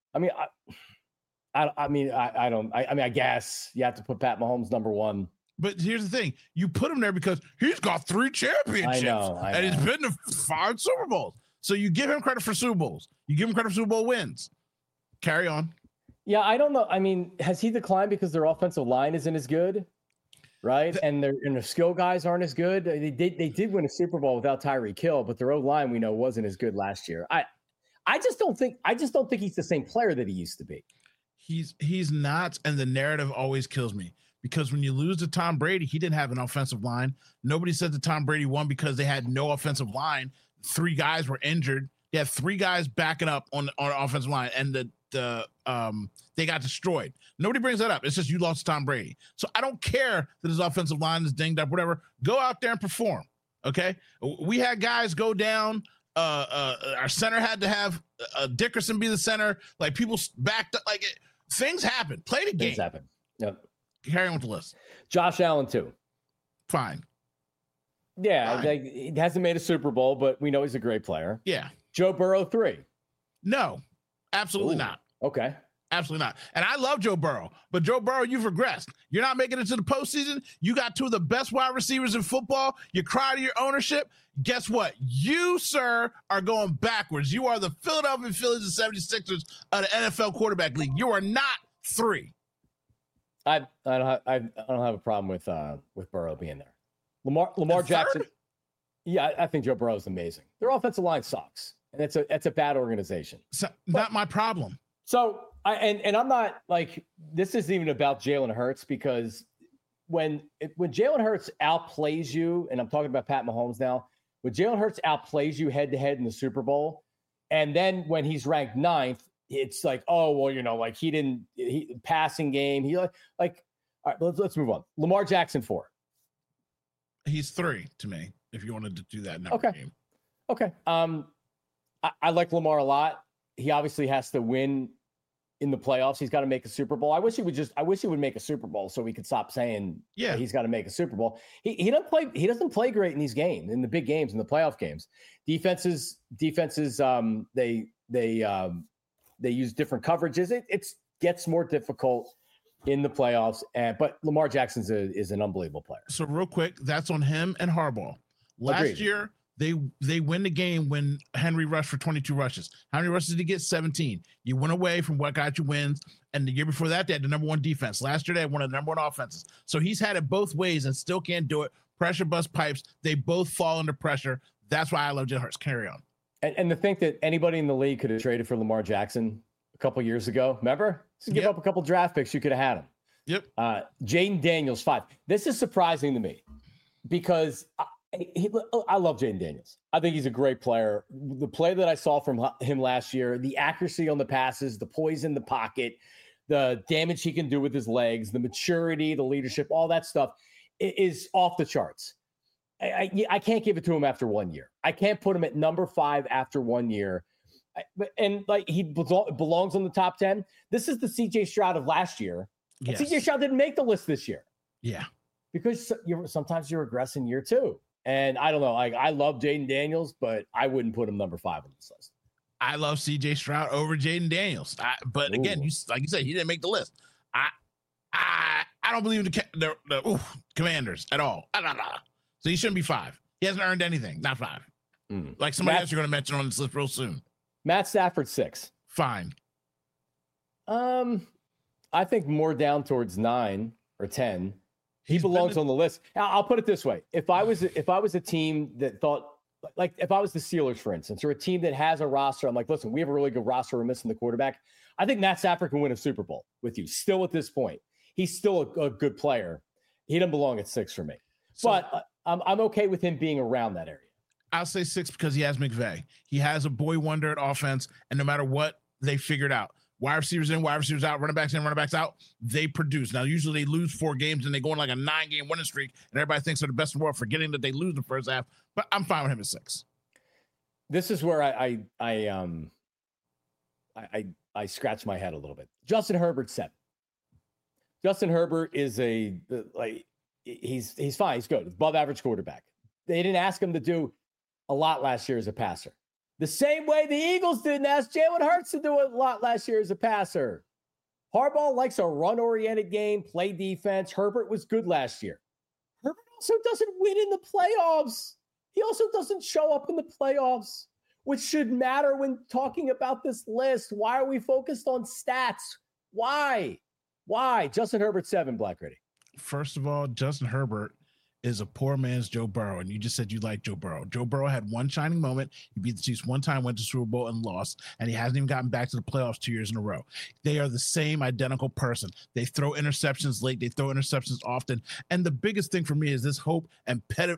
I guess you have to put Pat Mahomes number 1. But here's the thing. You put him there because he's got 3 championships. I know. And he's been to 5 Super Bowls. So you give him credit for Super Bowls. You give him credit for Super Bowl wins. Carry on. Yeah, I don't know. I mean, has he declined because their offensive line isn't as good? Right? And their skill guys aren't as good. They did win a Super Bowl without Tyreek Hill, but their O-line we know wasn't as good last year. I just don't think he's the same player that he used to be. He's not, and the narrative always kills me. Because when you lose to Tom Brady, he didn't have an offensive line. Nobody said that Tom Brady won because they had no offensive line. 3 guys were injured. They had 3 guys backing up on the offensive line, and they got destroyed. Nobody brings that up. It's just you lost to Tom Brady. So I don't care that his offensive line is dinged up, whatever. Go out there and perform, okay? We had guys go down. Our center had to have Dickerson be the center. People backed up. Things happen. Play the game. Things happen. Yep. Carry on with the list. Josh Allen, 2. Fine. Yeah, he hasn't made a Super Bowl, but we know he's a great player. Yeah. Joe Burrow, 3. No, absolutely not. Okay. Absolutely not. And I love Joe Burrow, but Joe Burrow, you've regressed. You're not making it to the postseason. You got 2 of the best wide receivers in football. You cry to your ownership. Guess what? You, sir, are going backwards. You are the Philadelphia Phillies and 76ers of the NFL quarterback league. You are not 3. I don't have a problem with Burrow being there. Lamar Jackson. Yeah, I think Joe Burrow is amazing. Their offensive line sucks, and it's a bad organization. So, not my problem. So I'm not this isn't even about Jalen Hurts, because when Jalen Hurts outplays you, and I'm talking about Pat Mahomes now, when Jalen Hurts outplays you head to head in the Super Bowl, and then when he's ranked 9th. It's he passing game. All right, let's move on. Lamar Jackson, 4. He's 3 to me, if you wanted to do that now. Okay. Okay. I like Lamar a lot. He obviously has to win in the playoffs. He's got to make a Super Bowl. I wish he would make a Super Bowl so we could stop saying he's got to make a Super Bowl. He doesn't play great in these games, in the big games, in the playoff games. Defenses, they use different coverages. It gets more difficult in the playoffs. But Lamar Jackson is an unbelievable player. So real quick, that's on him and Harbaugh. Last year, they win the game when Henry rushed for 22 rushes. How many rushes did he get? 17. You went away from what got you wins. And the year before that, they had the number 1 defense. Last year, they had one of the number 1 offenses. So he's had it both ways and still can't do it. Pressure bust pipes. They both fall under pressure. That's why I love Jalen Hurts. Carry on. And to think that anybody in the league could have traded for Lamar Jackson a couple years ago. Remember? Just give up a couple draft picks. You could have had him. Yep. Jaden Daniels, 5. This is surprising to me because I love Jaden Daniels. I think he's a great player. The play that I saw from him last year, the accuracy on the passes, the poise in the pocket, the damage he can do with his legs, the maturity, the leadership, all that stuff is off the charts. I can't give it to him after 1 year. I can't put him at number 5 after 1 year. And he belongs on the top 10. This is the CJ Stroud of last year. Yes. CJ Stroud didn't make the list this year. Yeah. Because sometimes you regress in year 2. And I don't know. I love Jaden Daniels, but I wouldn't put him number 5 on this list. I love CJ Stroud over Jaden Daniels. But again, like you said, he didn't make the list. I don't believe in the Commanders at all. So he shouldn't be 5. He hasn't earned anything. Not 5. Like somebody else you're going to mention on this list real soon. Matt Stafford 6. Fine. I think more down towards 9 or 10. He belongs on the list. I'll put it this way: if I was a team that thought, like, if I was the Steelers, for instance, or a team that has a roster, I'm like, listen, we have a really good roster. We're missing the quarterback. I think Matt Stafford can win a Super Bowl with you. Still at this point, he's still a good player. He doesn't belong at 6 for me. But I'm okay with him being around that area. I'll say 6 because he has McVay. He has a boy wonder at offense, and no matter what, they figured out. Wide receivers in, wide receivers out, running backs in, running backs out. They produce. Now, usually they lose 4 games and they go on like a 9-game winning streak, and everybody thinks they're the best in the world, forgetting that they lose in the first half. But I'm fine with him at 6. This is where I scratch my head a little bit. Justin Herbert 7. Justin Herbert is he's fine. He's good. Above average quarterback. They didn't ask him to do a lot last year as a passer. The same way the Eagles didn't ask Jalen Hurts to do a lot last year as a passer. Harbaugh likes a run-oriented game, play defense. Herbert was good last year. Herbert also doesn't win in the playoffs. He also doesn't show up in the playoffs, which should matter when talking about this list. Why are we focused on stats? Why? Justin Herbert 7, Black Gritty. First of all, Justin Herbert is a poor man's Joe Burrow, and you just said you like Joe Burrow. Joe Burrow had one shining moment. He beat the Chiefs one time, went to Super Bowl, and lost, and he hasn't even gotten back to the playoffs 2 years in a row. They are the same identical person. They throw interceptions late. They throw interceptions often. And the biggest thing for me is this hope and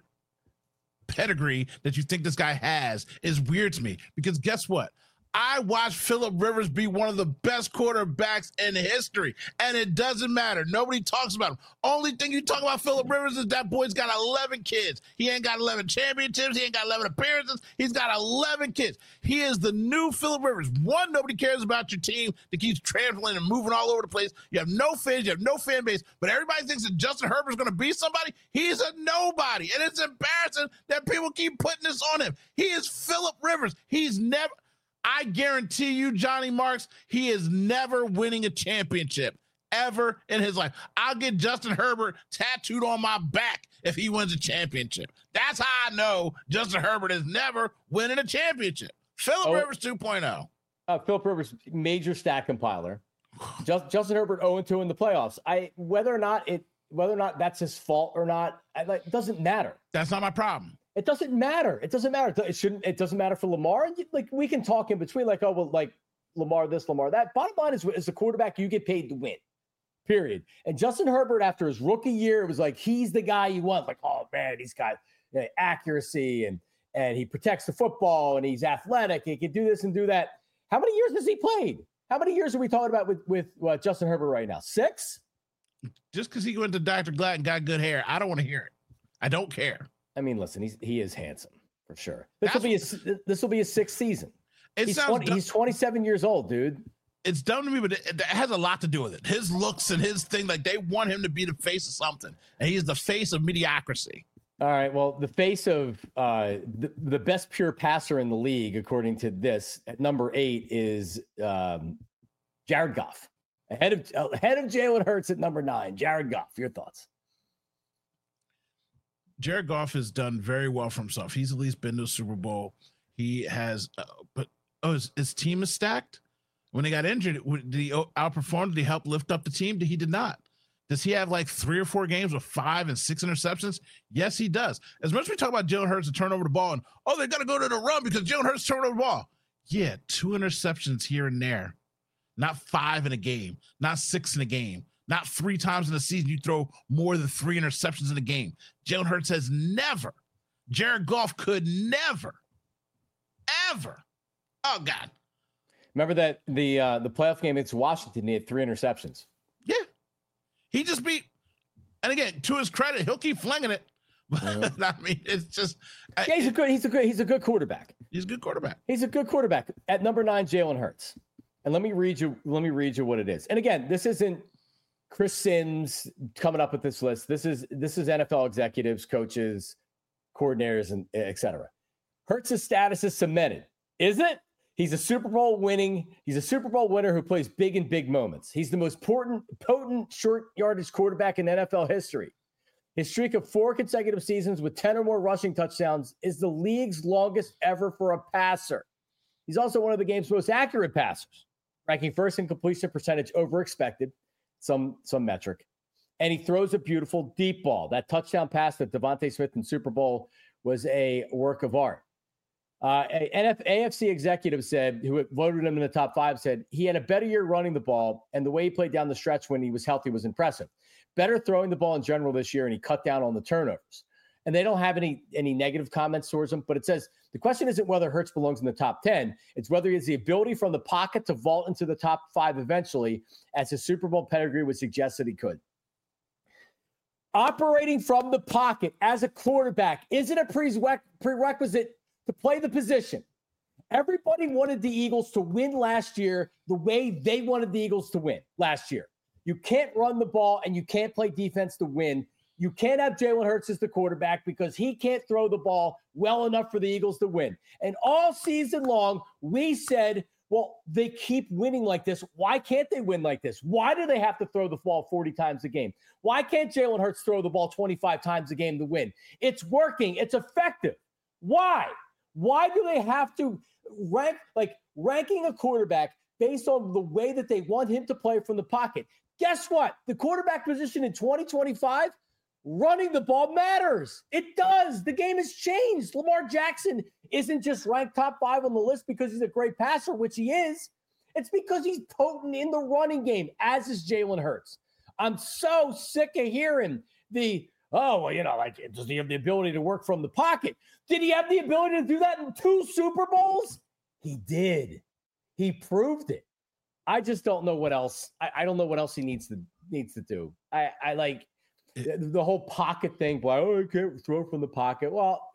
pedigree that you think this guy has is weird to me, because guess what? I watched Phillip Rivers be one of the best quarterbacks in history, and it doesn't matter. Nobody talks about him. Only thing you talk about Phillip Rivers is that boy's got 11 kids. He ain't got 11 championships. He ain't got 11 appearances. He's got 11 kids. He is the new Phillip Rivers. One, nobody cares about your team that keeps traveling and moving all over the place. You have no fans. You have no fan base. But everybody thinks that Justin Herbert's going to be somebody. He's a nobody, and it's embarrassing that people keep putting this on him. He is Phillip Rivers. He's never... I guarantee you, Johnny Marks, he is never winning a championship ever in his life. I'll get Justin Herbert tattooed on my back if he wins a championship. That's how I know Justin Herbert is never winning a championship. Phillip Rivers 2.0. Phillip Rivers, major stat compiler. Justin Herbert 0-2 in the playoffs. Whether or not that's his fault or not, it doesn't matter. That's not my problem. It doesn't matter. It doesn't matter. It doesn't matter for Lamar. Like, we can talk in between, like, oh, well, like Lamar this, Lamar that. Bottom line is, as a quarterback, you get paid to win. Period. And Justin Herbert, after his rookie year, it was like he's the guy you want. Like, oh man, he's got accuracy and he protects the football and he's athletic. He can do this and do that. How many years has he played? How many years are we talking about with Justin Herbert right now? 6? Just because he went to Dr. Glad and got good hair, I don't want to hear it. I don't care. I mean, listen, he is handsome for sure. This will be his 6th season. He's 27 years old, dude. It's dumb to me, but it has a lot to do with it. His looks and his thing, like, they want him to be the face of something, and he's the face of mediocrity. All right, well, the face of the best pure passer in the league, according to this, at number 8 is Jared Goff, ahead of Jalen Hurts at number 9. Jared Goff, your thoughts? Jared Goff has done very well for himself. He's at least been to a Super Bowl. He has, his team is stacked. When they got injured, did he outperform? Did he help lift up the team? He did not. Does he have like 3 or 4 games with 5 and 6 interceptions? Yes, he does. As much as we talk about Jalen Hurts to turn over the ball and, they got to go to the run because Jalen Hurts turned over the ball. Yeah, 2 interceptions here and there. Not 5 in a game. Not 6 in a game. Not 3 times in the season you throw more than 3 interceptions in a game. Jalen Hurts has never. Jared Goff could never, ever. Oh, God. Remember that the playoff game against Washington, he had 3 interceptions. Yeah. He just beat. And again, to his credit, he'll keep flinging it. But I mean, it's just. Yeah, he's a good quarterback. He's a good quarterback. He's a good quarterback. At number 9, Jalen Hurts. And let me read you what it is. And again, this isn't Chris Sims coming up with this list. This is NFL executives, coaches, coordinators, and et cetera. Hurts' status is cemented. Is it? He's a Super Bowl winner who plays big in big moments. He's the most potent short yardage quarterback in NFL history. His streak of 4 consecutive seasons with 10 or more rushing touchdowns is the league's longest ever for a passer. He's also one of the game's most accurate passers, ranking first in completion percentage over expected, some metric. And he throws a beautiful deep ball. That touchdown pass that Devontae Smith in Super Bowl was a work of art. AFC executive said, who voted him in the top 5, said he had a better year running the ball, and the way he played down the stretch when he was healthy was impressive. Better throwing the ball in general this year, and he cut down on the turnovers. And they don't have any negative comments towards him, but it says the question isn't whether Hurts belongs in the top 10. It's whether he has the ability from the pocket to vault into the top 5 eventually, as his Super Bowl pedigree would suggest that he could. Operating from the pocket as a quarterback isn't a prerequisite to play the position. Everybody wanted the Eagles to win last year the way they wanted the Eagles to win last year. You can't run the ball and you can't play defense to win. You can't have Jalen Hurts as the quarterback because he can't throw the ball well enough for the Eagles to win. And all season long, we said, well, they keep winning like this. Why can't they win like this? Why do they have to throw the ball 40 times a game? Why can't Jalen Hurts throw the ball 25 times a game to win? It's working. It's effective. Why? Why do they have to ranking a quarterback based on the way that they want him to play from the pocket? Guess what? The quarterback position in 2025, running the ball matters. It does. The game has changed. Lamar Jackson isn't just ranked top 5 on the list because he's a great passer, which he is. It's because he's potent in the running game, as is Jalen Hurts. I'm so sick of hearing does he have the ability to work from the pocket? Did he have the ability to do that in 2 Super Bowls? He did. He proved it. I just don't know what else. I don't know what else he needs to do. I like the whole pocket thing. Boy, he can't throw from the pocket. Well,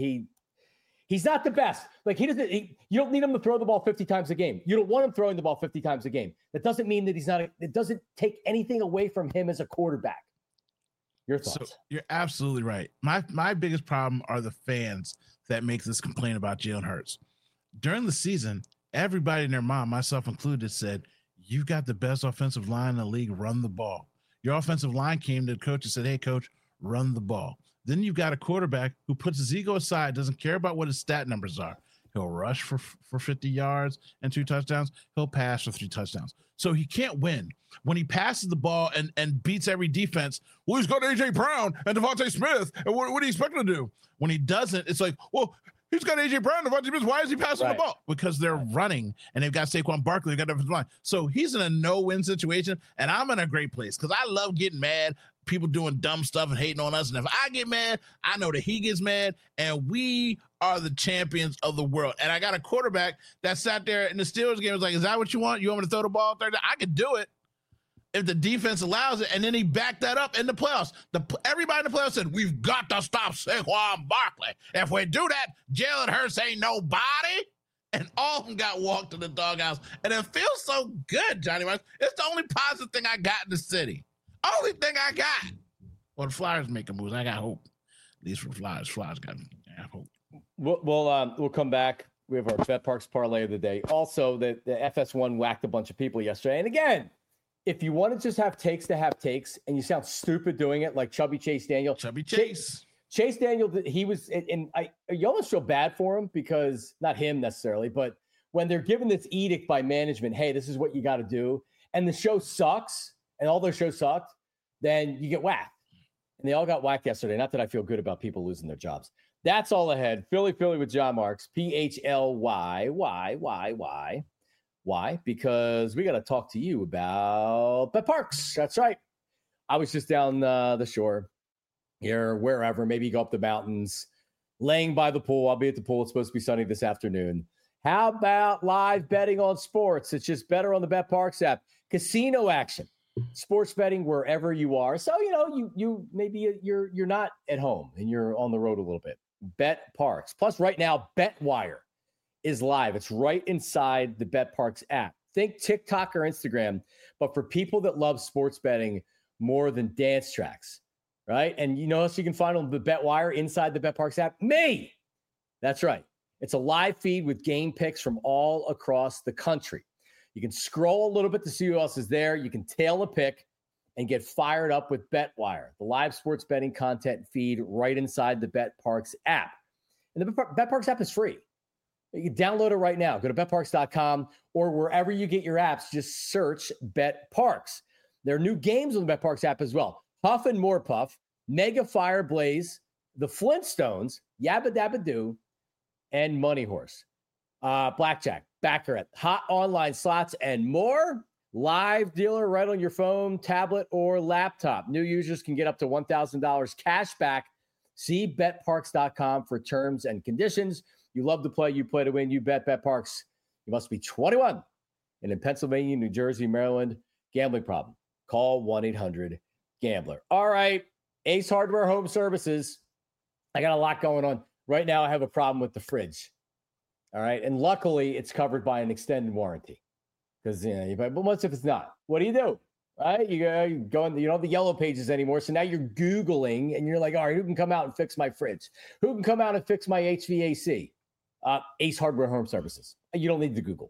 he's not the best. Like you don't need him to throw the ball 50 times a game. You don't want him throwing the ball 50 times a game. That doesn't mean that he's not. It doesn't take anything away from him as a quarterback. Your thoughts? So you're absolutely right. My biggest problem are the fans that make this complaint about Jalen Hurts. During the season, everybody and their mom, myself included, said, "You got the best offensive line in the league. Run the ball." Your offensive line came to the coach and said, "Hey, coach, run the ball." Then you've got a quarterback who puts his ego aside, doesn't care about what his stat numbers are. He'll rush for 50 yards and 2 touchdowns. He'll pass for 3 touchdowns. So he can't win. When he passes the ball and beats every defense, well, he's got A.J. Brown and Devontae Smith. And what do you expect him to do? When he doesn't, it's like, well, he's got A.J. Brown and Devontae Smith. Why is he passing the ball? Because they're running, and they've got Saquon Barkley. They've got defensive line. So he's in a no-win situation, and I'm in a great place because I love getting mad, people doing dumb stuff and hating on us. And if I get mad, I know that he gets mad, and we are the champions of the world. And I got a quarterback that sat there in the Steelers game was like, is that what you want? You want me to throw the ball 30? I could do it if the defense allows it. And then he backed that up in the playoffs. Everybody in the playoffs said, we've got to stop Saquon Barkley. If we do that, Jalen Hurts ain't nobody. And all of them got walked to the doghouse. And it feels so good, Johnny Rice. It's the only positive thing I got in the city. Only thing I got. Well, the Flyers making moves. I got hope. At least for the Flyers. Flyers got hope. We'll come back. We have our Bet Parks parlay of the day. Also, the FS1 whacked a bunch of people yesterday. And again, if you want to just have takes to have takes, and you sound stupid doing it, like Chubby Chase Daniel. Chase Daniel, he was, and you almost feel bad for him because, not him necessarily, but when they're given this edict by management, hey, this is what you got to do, and the show sucks, and all their shows sucked, then you get whacked. And they all got whacked yesterday. Not that I feel good about people losing their jobs. That's all ahead. Philly with John Marks. PHLY. Why? Because we got to talk to you about Bet Parks. That's right. I was just down the shore here, wherever. Maybe go up the mountains, laying by the pool. I'll be at the pool. It's supposed to be sunny this afternoon. How about live betting on sports? It's just better on the Bet Parks app. Casino action. Sports betting wherever you are. So, you maybe you're not at home and you're on the road a little bit. Bet Parks. Plus, right now, BetWire is live. It's right inside the Bet Parks app. Think TikTok or Instagram, but for people that love sports betting more than dance tracks, right? And you know, so you can find on the BetWire inside the BetParks app. Me. That's right. It's a live feed with game picks from all across the country. You can scroll a little bit to see who else is there. You can tail a pick and get fired up with BetWire, the live sports betting content feed right inside the BetParks app. And the BetParks app is free. You can download it right now. Go to betparks.com or wherever you get your apps, just search BetParks. There are new games on the BetParks app as well. Huff and More Puff, Mega Fire Blaze, The Flintstones, Yabba Dabba Doo, and Money Horse. Blackjack, Baccarat, hot online slots, and more. Live dealer right on your phone, tablet, or laptop. New users can get up to $1,000 cash back. See betparks.com for terms and conditions. You love to play, you play to win, you bet BetParks. You must be 21 and in Pennsylvania, New Jersey, Maryland. Gambling problem. Call 1-800-GAMBLER. All right, Ace Hardware Home Services. I got a lot going on. Right now, I have a problem with the fridge. All right, and luckily, it's covered by an extended warranty. Because, but what if it's not? What do? Right? You go in, you don't have the yellow pages anymore. So now you're Googling and you're like, all right, who can come out and fix my fridge? Who can come out and fix my HVAC? Ace Hardware Home Services. You don't need to Google.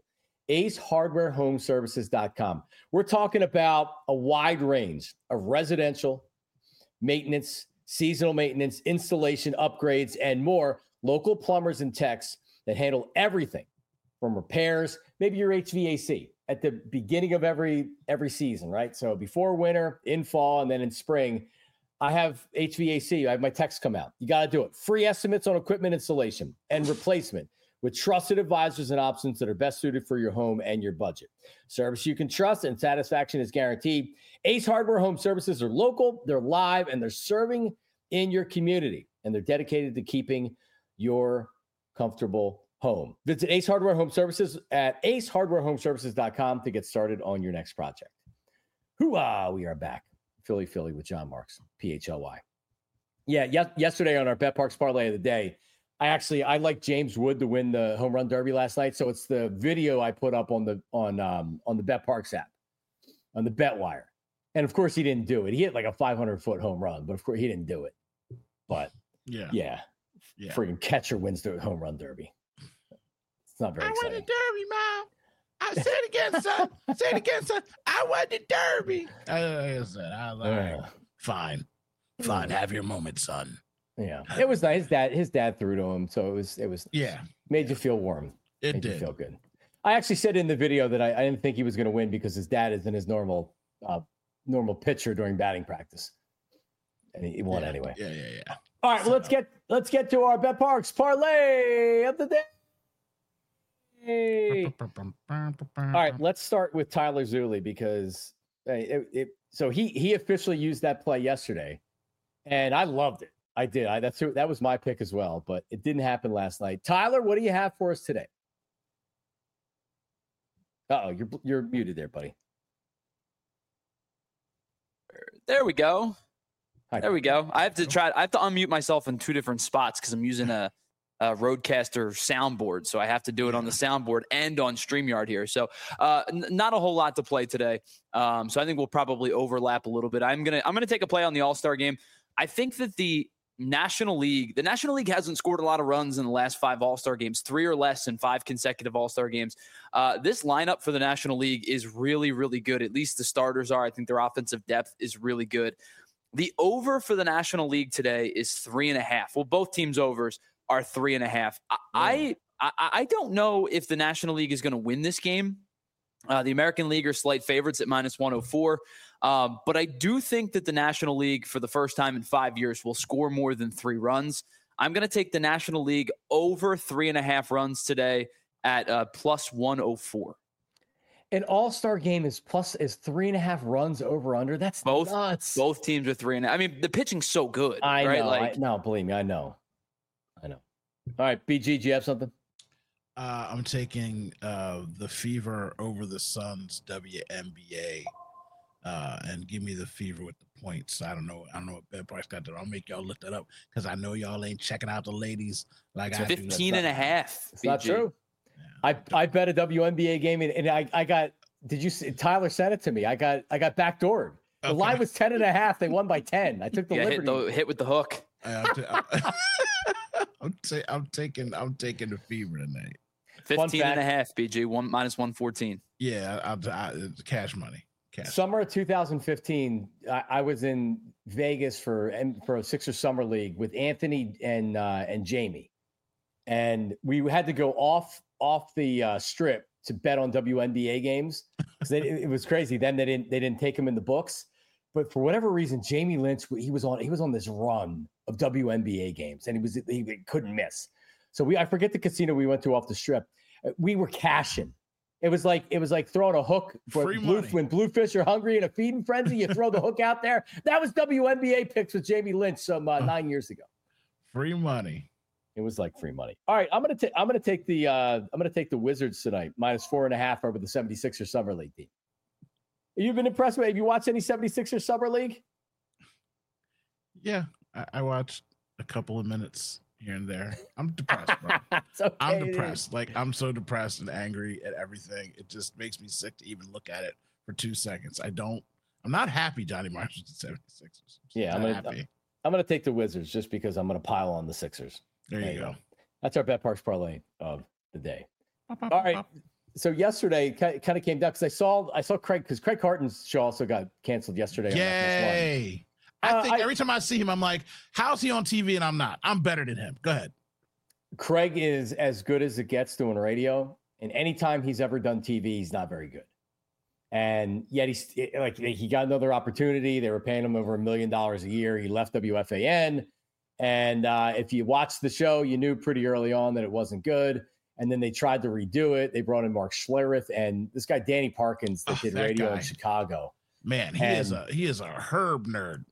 AceHardwareHomeservices.com. We're talking about a wide range of residential maintenance, seasonal maintenance, installation, upgrades, and more. Local plumbers and techs that handle everything from repairs, maybe your HVAC at the beginning of every season, right? So before winter, in fall, and then in spring, I have HVAC. I have my techs come out. You got to do it. Free estimates on equipment installation and replacement with trusted advisors and options that are best suited for your home and your budget. Service you can trust and satisfaction is guaranteed. Ace Hardware Home Services are local, they're live, and they're serving in your community. And they're dedicated to keeping your comfortable home. Visit Ace Hardware Home Services at acehardwarehomeservices.com to get started on your next project. Hoo-ah, we are back. Philly with John Marks, PHLY. Yeah, yesterday on our BetParks parlay of the day, I like James Wood to win the home run derby last night. So it's the video I put up on the BetParks app, on the BetWire. And of course he didn't do it. He hit like a 500-foot home run, but of course he didn't do it. But yeah. Freaking catcher wins the home run derby. It's not very exciting. I won the derby, Mom. I say it again, son. Say it again, son. I won the derby. I was fine. Have your moment, son. Yeah, it was nice. His dad threw to him, so it was made you feel warm. It made did you feel good. I actually said in the video that I didn't think he was going to win because his dad isn't his normal pitcher during batting practice, and he won anyway. Yeah. All right, well, let's get to our BetParks parlay of the day. All right, let's start with Tyler Zulli because so he officially used that play yesterday, and I loved it. I did. That was my pick as well, but it didn't happen last night. Tyler, what do you have for us today? Uh-oh, you're muted there, buddy. There we go. There we go. I have to unmute myself in two different spots because I'm using a Rodecaster soundboard, so I have to do it on the soundboard and on StreamYard here. So not a whole lot to play today. So I think we'll probably overlap a little bit. I'm gonna take a play on the All-Star game. I think that the National League hasn't scored a lot of runs in the last 5 All-Star games, 3 or less in 5 consecutive All-Star games. This lineup for the National League is really, really good. At least the starters are. I think their offensive depth is really good. The over for the National League today is 3.5. Well, both teams' overs are 3.5. I don't know if the National League is going to win this game. The American League are slight favorites at -104. But I do think that the National League, for the first time in 5 years, will score more than 3 runs. I'm going to take the National League over 3.5 runs today at +104. An All-Star game is 3.5 runs over under. That's nuts. Both teams are 3.5. I mean, the pitching's so good. I right? know. Believe me, I know. All right, BG, do you have something? I'm taking the Fever over the Suns WNBA, and give me the Fever with the points. I don't know what BetParks got there. I'll make y'all look that up because I know y'all ain't checking out the ladies like I do. 15.5. It's not true. I bet a WNBA game and I got. Did you see? Tyler sent it to me. I got backdoored. The line was 10.5. They won by 10. I took the liberty. Hit with the hook. I'm taking the Fever tonight. 15.5, BG, -114. Yeah, cash money. Summer of 2015, I was in Vegas for a Sixers summer league with Anthony and Jamie, and we had to go off the strip to bet on WNBA games. It was crazy. Then they didn't take him in the books, but for whatever reason, Jamie Lynch he was on this run of WNBA games, and he couldn't miss. So I forget the casino we went to off the strip. We were cashing. It was like throwing a hook when Bluefish are hungry in a feeding frenzy. You throw the hook out there. That was WNBA picks with Jamie Lynch some 9 years ago. Free money. It was like free money. All right, I'm gonna take the Wizards tonight -4.5 over the 76ers summer league team. You've been impressed with? Have you watched any 76ers summer league? Yeah, I watched a couple of minutes here and there. I'm depressed, bro. Okay, I'm depressed. Dude. Like, I'm so depressed and angry at everything. It just makes me sick to even look at it for 2 seconds. I'm not happy Johnny Marshall's at 76ers. Yeah, I'm gonna take the Wizards just because I'm gonna pile on the Sixers. There you go. That's our Bet Parks parlay of the day. All right. So yesterday kind of came down because I saw Craig, because Craig Carton's show also got canceled yesterday. Yay. I think every time I see him, I'm like, how's he on TV and I'm not? I'm better than him. Go ahead. Craig is as good as it gets doing radio. And anytime he's ever done TV, he's not very good. And yet he got another opportunity. They were paying him over $1 million a year. He left WFAN. And if you watched the show, you knew pretty early on that it wasn't good. And then they tried to redo it. They brought in Mark Schlereth and this guy, Danny Parkins, that did radio in Chicago. Man, he is a herb nerd.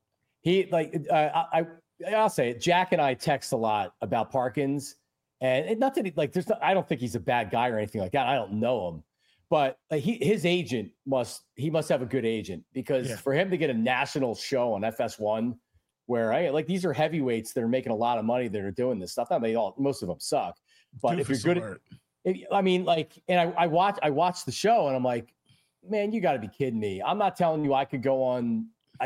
I'll say it. Jack and I text a lot about Parkins, and not that I don't think he's a bad guy or anything like that. I don't know him, but his agent must have a good agent, because for him to get a national show on FS1, where these are heavyweights that are making a lot of money that are doing this stuff. Most of them suck, but if you're good, I watched the show and I'm like, man, you got to be kidding me. I'm not telling you I could go on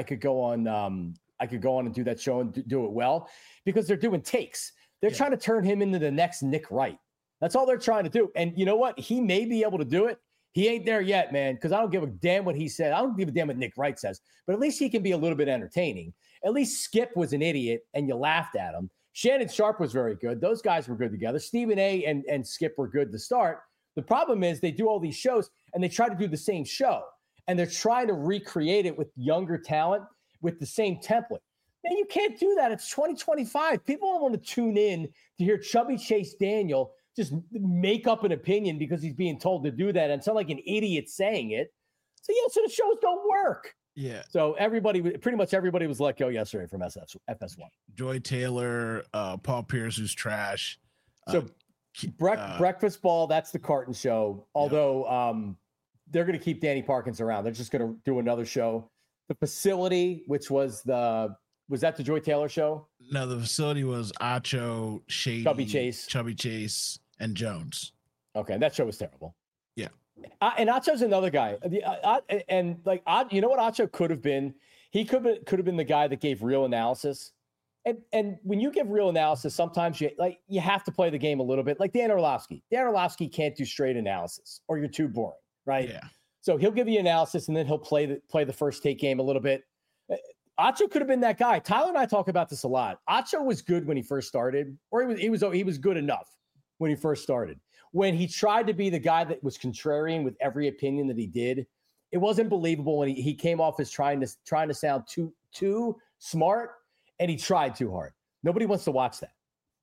and do that show and do it well, because they're doing takes. They're trying to turn him into the next Nick Wright. That's all they're trying to do. And you know what? He may be able to do it. He ain't there yet, man, because I don't give a damn what he said. I don't give a damn what Nick Wright says, but at least he can be a little bit entertaining. At least Skip was an idiot and you laughed at him. Shannon Sharp was very good. Those guys were good together. Stephen A. and Skip were good to start. The problem is they do all these shows and they try to do the same show, and they're trying to recreate it with younger talent with the same template. Man, you can't do that. It's 2025. People don't want to tune in to hear Chubby Chase Daniel just make up an opinion because he's being told to do that and sound like an idiot saying it. So the shows don't work. Yeah. So pretty much everybody was let go yesterday from FS1. Joy Taylor, Paul Pierce, who's trash. So Breakfast Ball, that's the Carton show. Although they're going to keep Danny Parkins around. They're just going to do another show. The Facility, which was that the Joy Taylor show? No, the Facility was Acho, Shady, Chubby Chase, and Jones. Okay, that show was terrible. Yeah. And Acho's another guy. You know what Acho could have been? He could have been the guy that gave real analysis. And when you give real analysis, sometimes you have to play the game a little bit. Like Dan Orlovsky. Dan Orlovsky can't do straight analysis, or you're too boring, right? Yeah. So he'll give you analysis, and then he'll play the first take game a little bit. Acho could have been that guy. Tyler and I talk about this a lot. Acho was good when he first started, or he was good enough when he first started. When he tried to be the guy that was contrarian with every opinion that he did, it wasn't believable when he came off as trying to sound too smart, and he tried too hard. Nobody wants to watch that.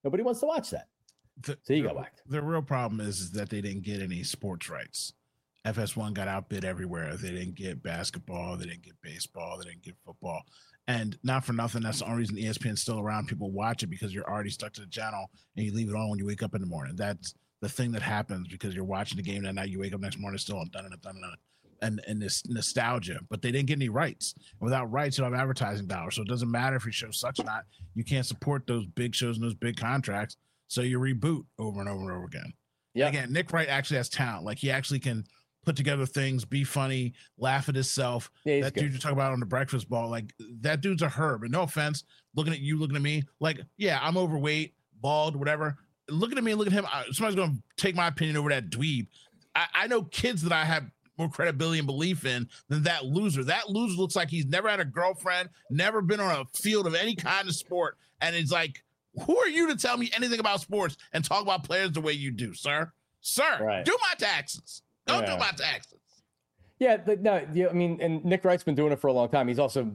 So he got whacked. The real problem is that they didn't get any sports rights. FS1 got outbid everywhere. They didn't get basketball. They didn't get baseball. They didn't get football. And not for nothing, that's the only reason ESPN's still around. People watch it because you're already stuck to the channel and you leave it on when you wake up in the morning. That's the thing that happens because you're watching the game that night. You wake up next morning still and this nostalgia. But they didn't get any rights. And without rights, you don't have advertising dollars. So it doesn't matter if your show sucks or not. You can't support those big shows and those big contracts. So you reboot over and over and over again. Yeah. Again, Nick Wright actually has talent. Like he actually can put together things, be funny, laugh at himself. Yeah, that dude you talk about on the Breakfast Ball, like that dude's a herb. And no offense, looking at you, looking at me, like, yeah, I'm overweight, bald, whatever. Looking at me, look at him. Somebody's going to take my opinion over that dweeb. I know kids that I have more credibility and belief in than that loser. That loser looks like he's never had a girlfriend, never been on a field of any kind of sport. And it's like, who are you to tell me anything about sports and talk about players the way you do, sir? Sir, right. Do my taxes. Don't do my taxes. Yeah, no, yeah, I mean, and Nick Wright's been doing it for a long time. He's also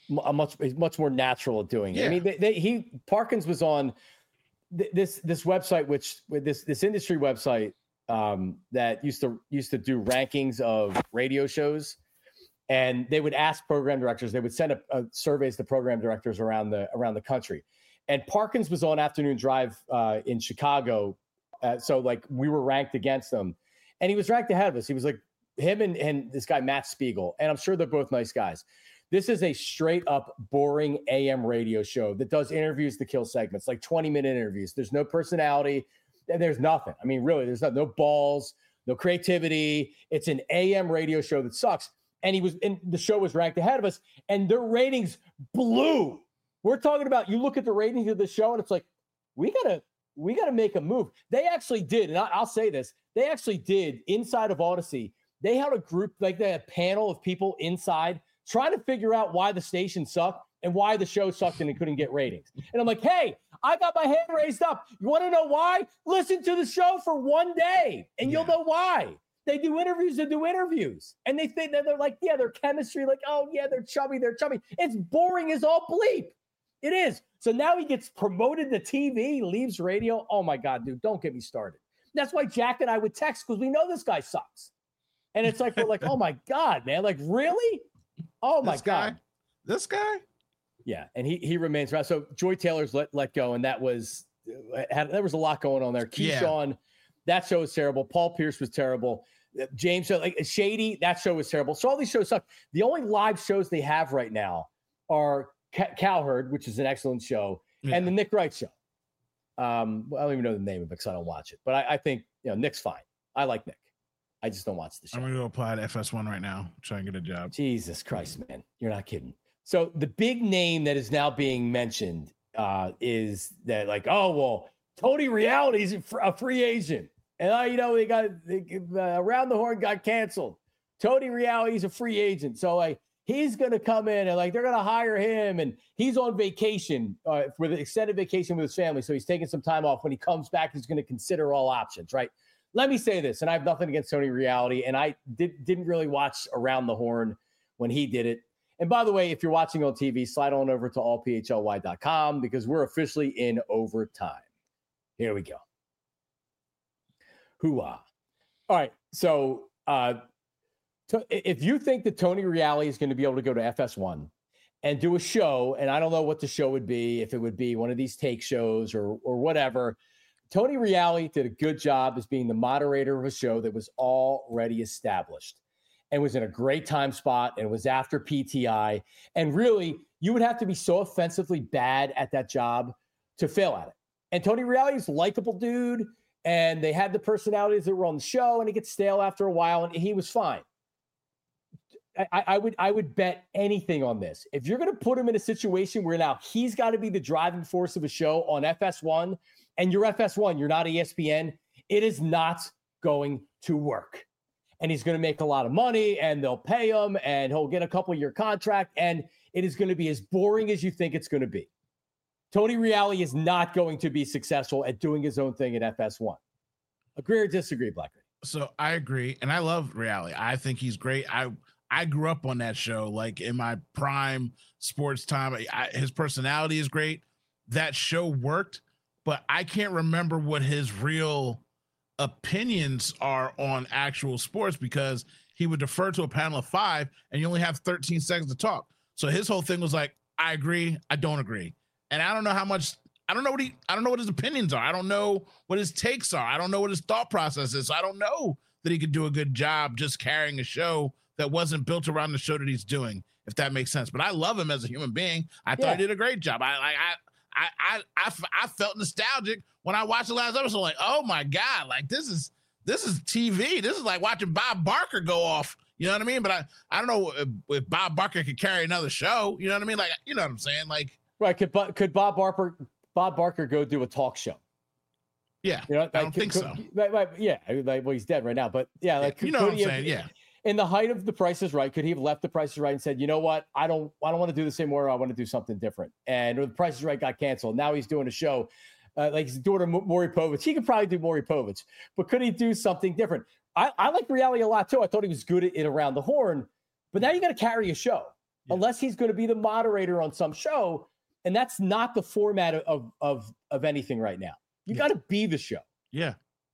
much more natural at doing it. Yeah. I mean, Parkins was on this website, this industry website that used to do rankings of radio shows, and they would ask program directors. They would send a surveys to program directors around the country. And Parkins was on Afternoon Drive in Chicago, so like we were ranked against them, and he was ranked ahead of us. He was like him and this guy Matt Spiegel, and I'm sure they're both nice guys. This is a straight up boring AM radio show that does interviews to kill segments, like 20-minute interviews. There's no personality. There's nothing. I mean, really, there's no balls, no creativity. It's an AM radio show that sucks. And the show was ranked ahead of us, and their ratings blew. We're talking about, you look at the ratings of the show, and it's like, we gotta make a move. They actually did, and I'll say this, they actually did inside of Odyssey. They had a group, like they had a panel of people inside trying to figure out why the station sucked and why the show sucked and it couldn't get ratings. And I'm like, hey, I got my hand raised up. You want to know why? Listen to the show for one day and you'll know why. They do interviews and do interviews. And they think that they're like, yeah, their chemistry, like, oh yeah, they're chubby. It's boring as all bleep. It is. So now he gets promoted to TV, leaves radio. Oh my God, dude, don't get me started. That's why Jack and I would text, because we know this guy sucks. And it's like, we're like, oh my God, man, like really? Oh my God. This guy? Yeah. And he remains around. So Joy Taylor's let go. And there was a lot going on there. Keyshawn, that show was terrible. Paul Pierce was terrible. James, like Shady, that show was terrible. So all these shows suck. The only live shows they have right now are Cowherd, which is an excellent show, and the Nick Wright show. I don't even know the name of it because I don't watch it. But I think, Nick's fine. I like Nick. I just don't watch the show. I'm going to go apply to FS1 right now, try and get a job. Jesus Christ, man. You're not kidding. So the big name that is now being mentioned is that like, oh, well, Tony Reality's a free agent. And, they got Around the Horn got canceled. Tony Reality's a free agent. So, like, he's going to come in and, like, they're going to hire him. And he's on vacation with an extended vacation with his family. So he's taking some time off. When he comes back, he's going to consider all options, right? Let me say this, and I have nothing against Tony Reality, and I didn't really watch Around the Horn when he did it. And by the way, if you're watching on TV, slide on over to allphly.com because we're officially in overtime. Here we go. Hoo-ah. All right, so if you think that Tony Reality is going to be able to go to FS1 and do a show, and I don't know what the show would be, if it would be one of these take shows or whatever, Tony Reality did a good job as being the moderator of a show that was already established and was in a great time spot and was after PTI. And really, you would have to be so offensively bad at that job to fail at it. And Tony Reality's a likable dude, and they had the personalities that were on the show, and it gets stale after a while, and he was fine. I would bet anything on this. If you're going to put him in a situation where now he's got to be the driving force of a show on FS1, and you're FS1, you're not ESPN, it is not going to work. And he's going to make a lot of money, and they'll pay him, and he'll get a couple-year contract, and it is going to be as boring as you think it's going to be. Tony Reality is not going to be successful at doing his own thing at FS1. Agree or disagree, Blackman? So I agree, and I love Reality. I think he's great. I grew up on that show, like in my prime sports time. His personality is great. That show worked, but I can't remember what his real opinions are on actual sports because he would defer to a panel of 5 and you only have 13 seconds to talk. So his whole thing was like, I agree, I don't agree. And I don't know I don't know what his opinions are. I don't know what his takes are. I don't know what his thought process is. So I don't know that he could do a good job just carrying a show that wasn't built around the show that he's doing, if that makes sense. But I love him as a human being. I thought he did a great job. I felt nostalgic when I watched the last episode. Like, oh my God, like this is TV. This is like watching Bob Barker go off. You know what I mean? But I don't know if Bob Barker could carry another show. You know what I mean? Like, you know what I'm saying? Like, right? Could Bob Barker go do a talk show? Yeah, you know, I don't think so. Yeah, well, he's dead right now. But yeah, like you know what I'm saying? Yeah. In the height of The Price is Right, could he have left The Price is Right and said, you know what, I don't want to do this anymore. I want to do something different. And The Price is Right got canceled. Now he's doing a show like his daughter Maury Povich. He could probably do Maury Povich, but could he do something different? I like reality a lot too. I thought he was good at it around the horn, but now you got to carry a show unless he's going to be the moderator on some show, and that's not the format of anything right now. You got to be the show. Yeah,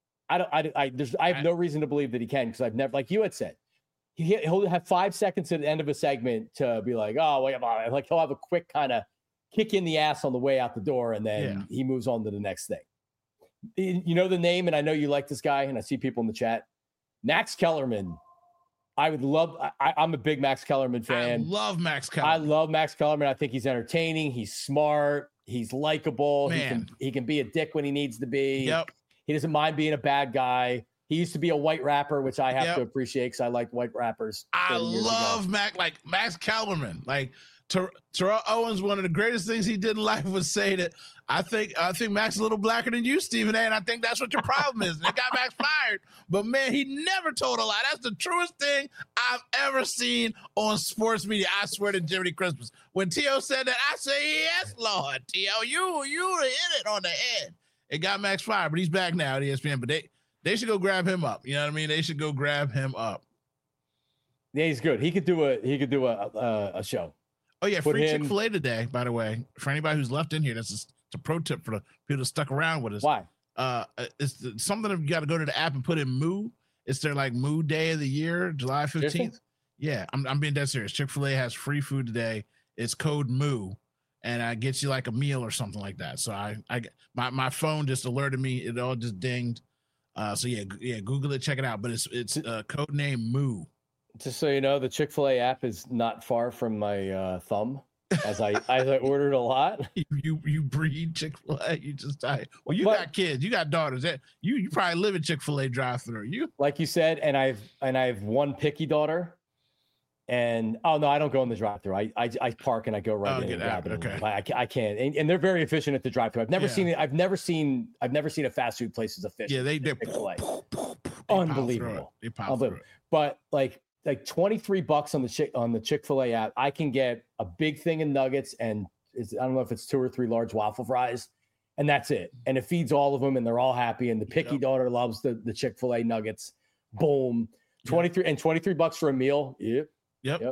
I have no reason to believe that he can, because I've never, like you had said, he'll have 5 seconds at the end of a segment to be like, oh, wait, like he'll have a quick kind of kick in the ass on the way out the door, and then he moves on to the next thing. You know the name, and I know you like this guy, and I see people in the chat. Max Kellerman. I would love. I'm a big Max Kellerman fan. I love Max Kellerman. I love Max Kellerman. I think he's entertaining. He's smart. He's likable. He can be a dick when he needs to be. Yep. He doesn't mind being a bad guy. He used to be a white rapper, which I have to appreciate because I like white rappers. I love Max Kellerman. Like Terrell Owens, one of the greatest things he did in life was say that I think Max is a little blacker than you, Stephen A. And I think that's what your problem is. And it got Max fired. But man, he never told a lie. That's the truest thing I've ever seen on sports media. I swear to Jiminy Christmas. When T.O. said that, I say, yes, Lord, T.O., you hit it on the head. It got Max fired, but he's back now at ESPN. But they should go grab him up. You know what I mean? They should go grab him up. Yeah, he's good. He could do a show. Oh yeah, free Chick-fil-A today, by the way. For anybody who's left in here, it's a pro tip for the people that stuck around with us. Why? It's something that you got to go to the app and put in Moo. It's their like Moo Day of the year, July 15th. Seriously? Yeah, I'm being dead serious. Chick-fil-A has free food today. It's code Moo, and I get you like a meal or something like that. So my phone just alerted me. It all just dinged. So yeah, Google it, check it out. But it's code name Moo. Just so you know, the Chick-fil-A app is not far from my thumb, as I ordered a lot. You breed Chick-fil-A. You just die. Well, you got kids, you got daughters. That you probably live in Chick-fil-A drive-through. You like you said, and I have one picky daughter. And oh no, I don't go in the drive-through. I park and I go right in and grab it. Okay. I can't. And they're very efficient at the drive-through. I've never seen it. I've never seen a fast food place as efficient. Yeah, they're unbelievable. But like $23 on the Chick-fil-A app, I can get a big thing of nuggets and I don't know if it's 2 or 3 large waffle fries, and that's it. And it feeds all of them, and they're all happy. And the picky daughter loves the Chick-fil-A nuggets. Boom, $23 for a meal. Yep.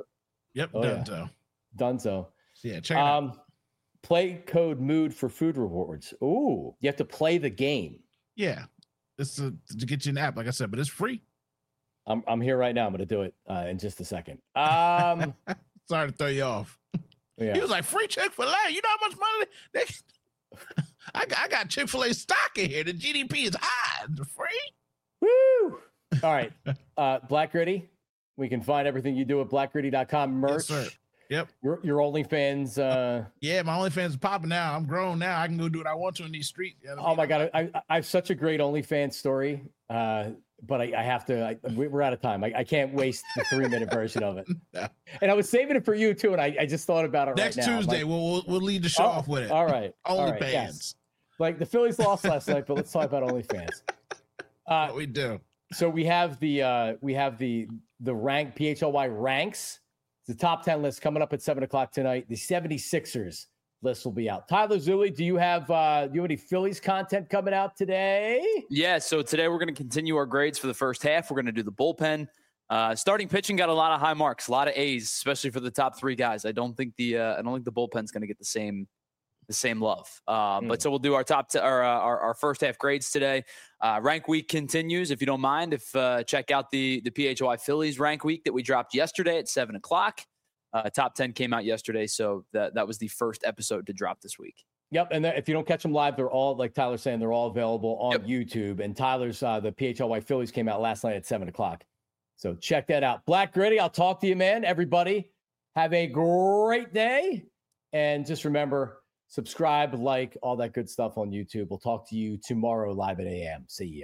Dunzo. Yeah, check it out. Play code MOOD for food rewards. Ooh, you have to play the game. Yeah, it's to get you an app, like I said, but it's free. I'm here right now. I'm going to do it in just a second. Sorry to throw you off. Yeah. He was like, free Chick-fil-A. You know how much money I got Chick-fil-A stock in here. The GDP is high. It's free. Woo! All right. Black Gritty. We can find everything you do at blackgritty.com. Merch. Yes, sir. Yep. Your OnlyFans. Yeah, my OnlyFans is popping now. I'm grown now. I can go do what I want to in these streets. You know my God. I have such a great OnlyFans story. But I have to, we're out of time. I can't waste the 3-minute version of it. No. And I was saving it for you too. And I just thought about it next right now. Next Tuesday, we'll lead the show off with it. All right. OnlyFans. Yes. Like the Phillies lost last night, but let's talk about OnlyFans. What we do. So we have the rank PHLY ranks. It's the top 10 list coming up at 7:00 tonight. The 76ers list will be out. Tyler Zulli, do you have any Phillies content coming out today? Yeah, so today we're going to continue our grades for the first half. We're going to do the bullpen. Starting pitching got a lot of high marks, a lot of A's, especially for the top 3 guys. I don't think the bullpen's going to get the same love. But so we'll do our our first half grades today. Rank week continues. If you don't mind, check out the PHLY Phillies rank week that we dropped yesterday at 7:00. Top 10 came out yesterday, so that was the first episode to drop this week. Yep, and if you don't catch them live, they're all, like Tyler's saying, they're all available on YouTube. And Tyler's the PHLY Phillies came out last night at 7:00. So check that out. Black Gritty, I'll talk to you, man. Everybody, have a great day. And just remember, Subscribe, like, all that good stuff on YouTube. We'll talk to you tomorrow live at AM. See ya.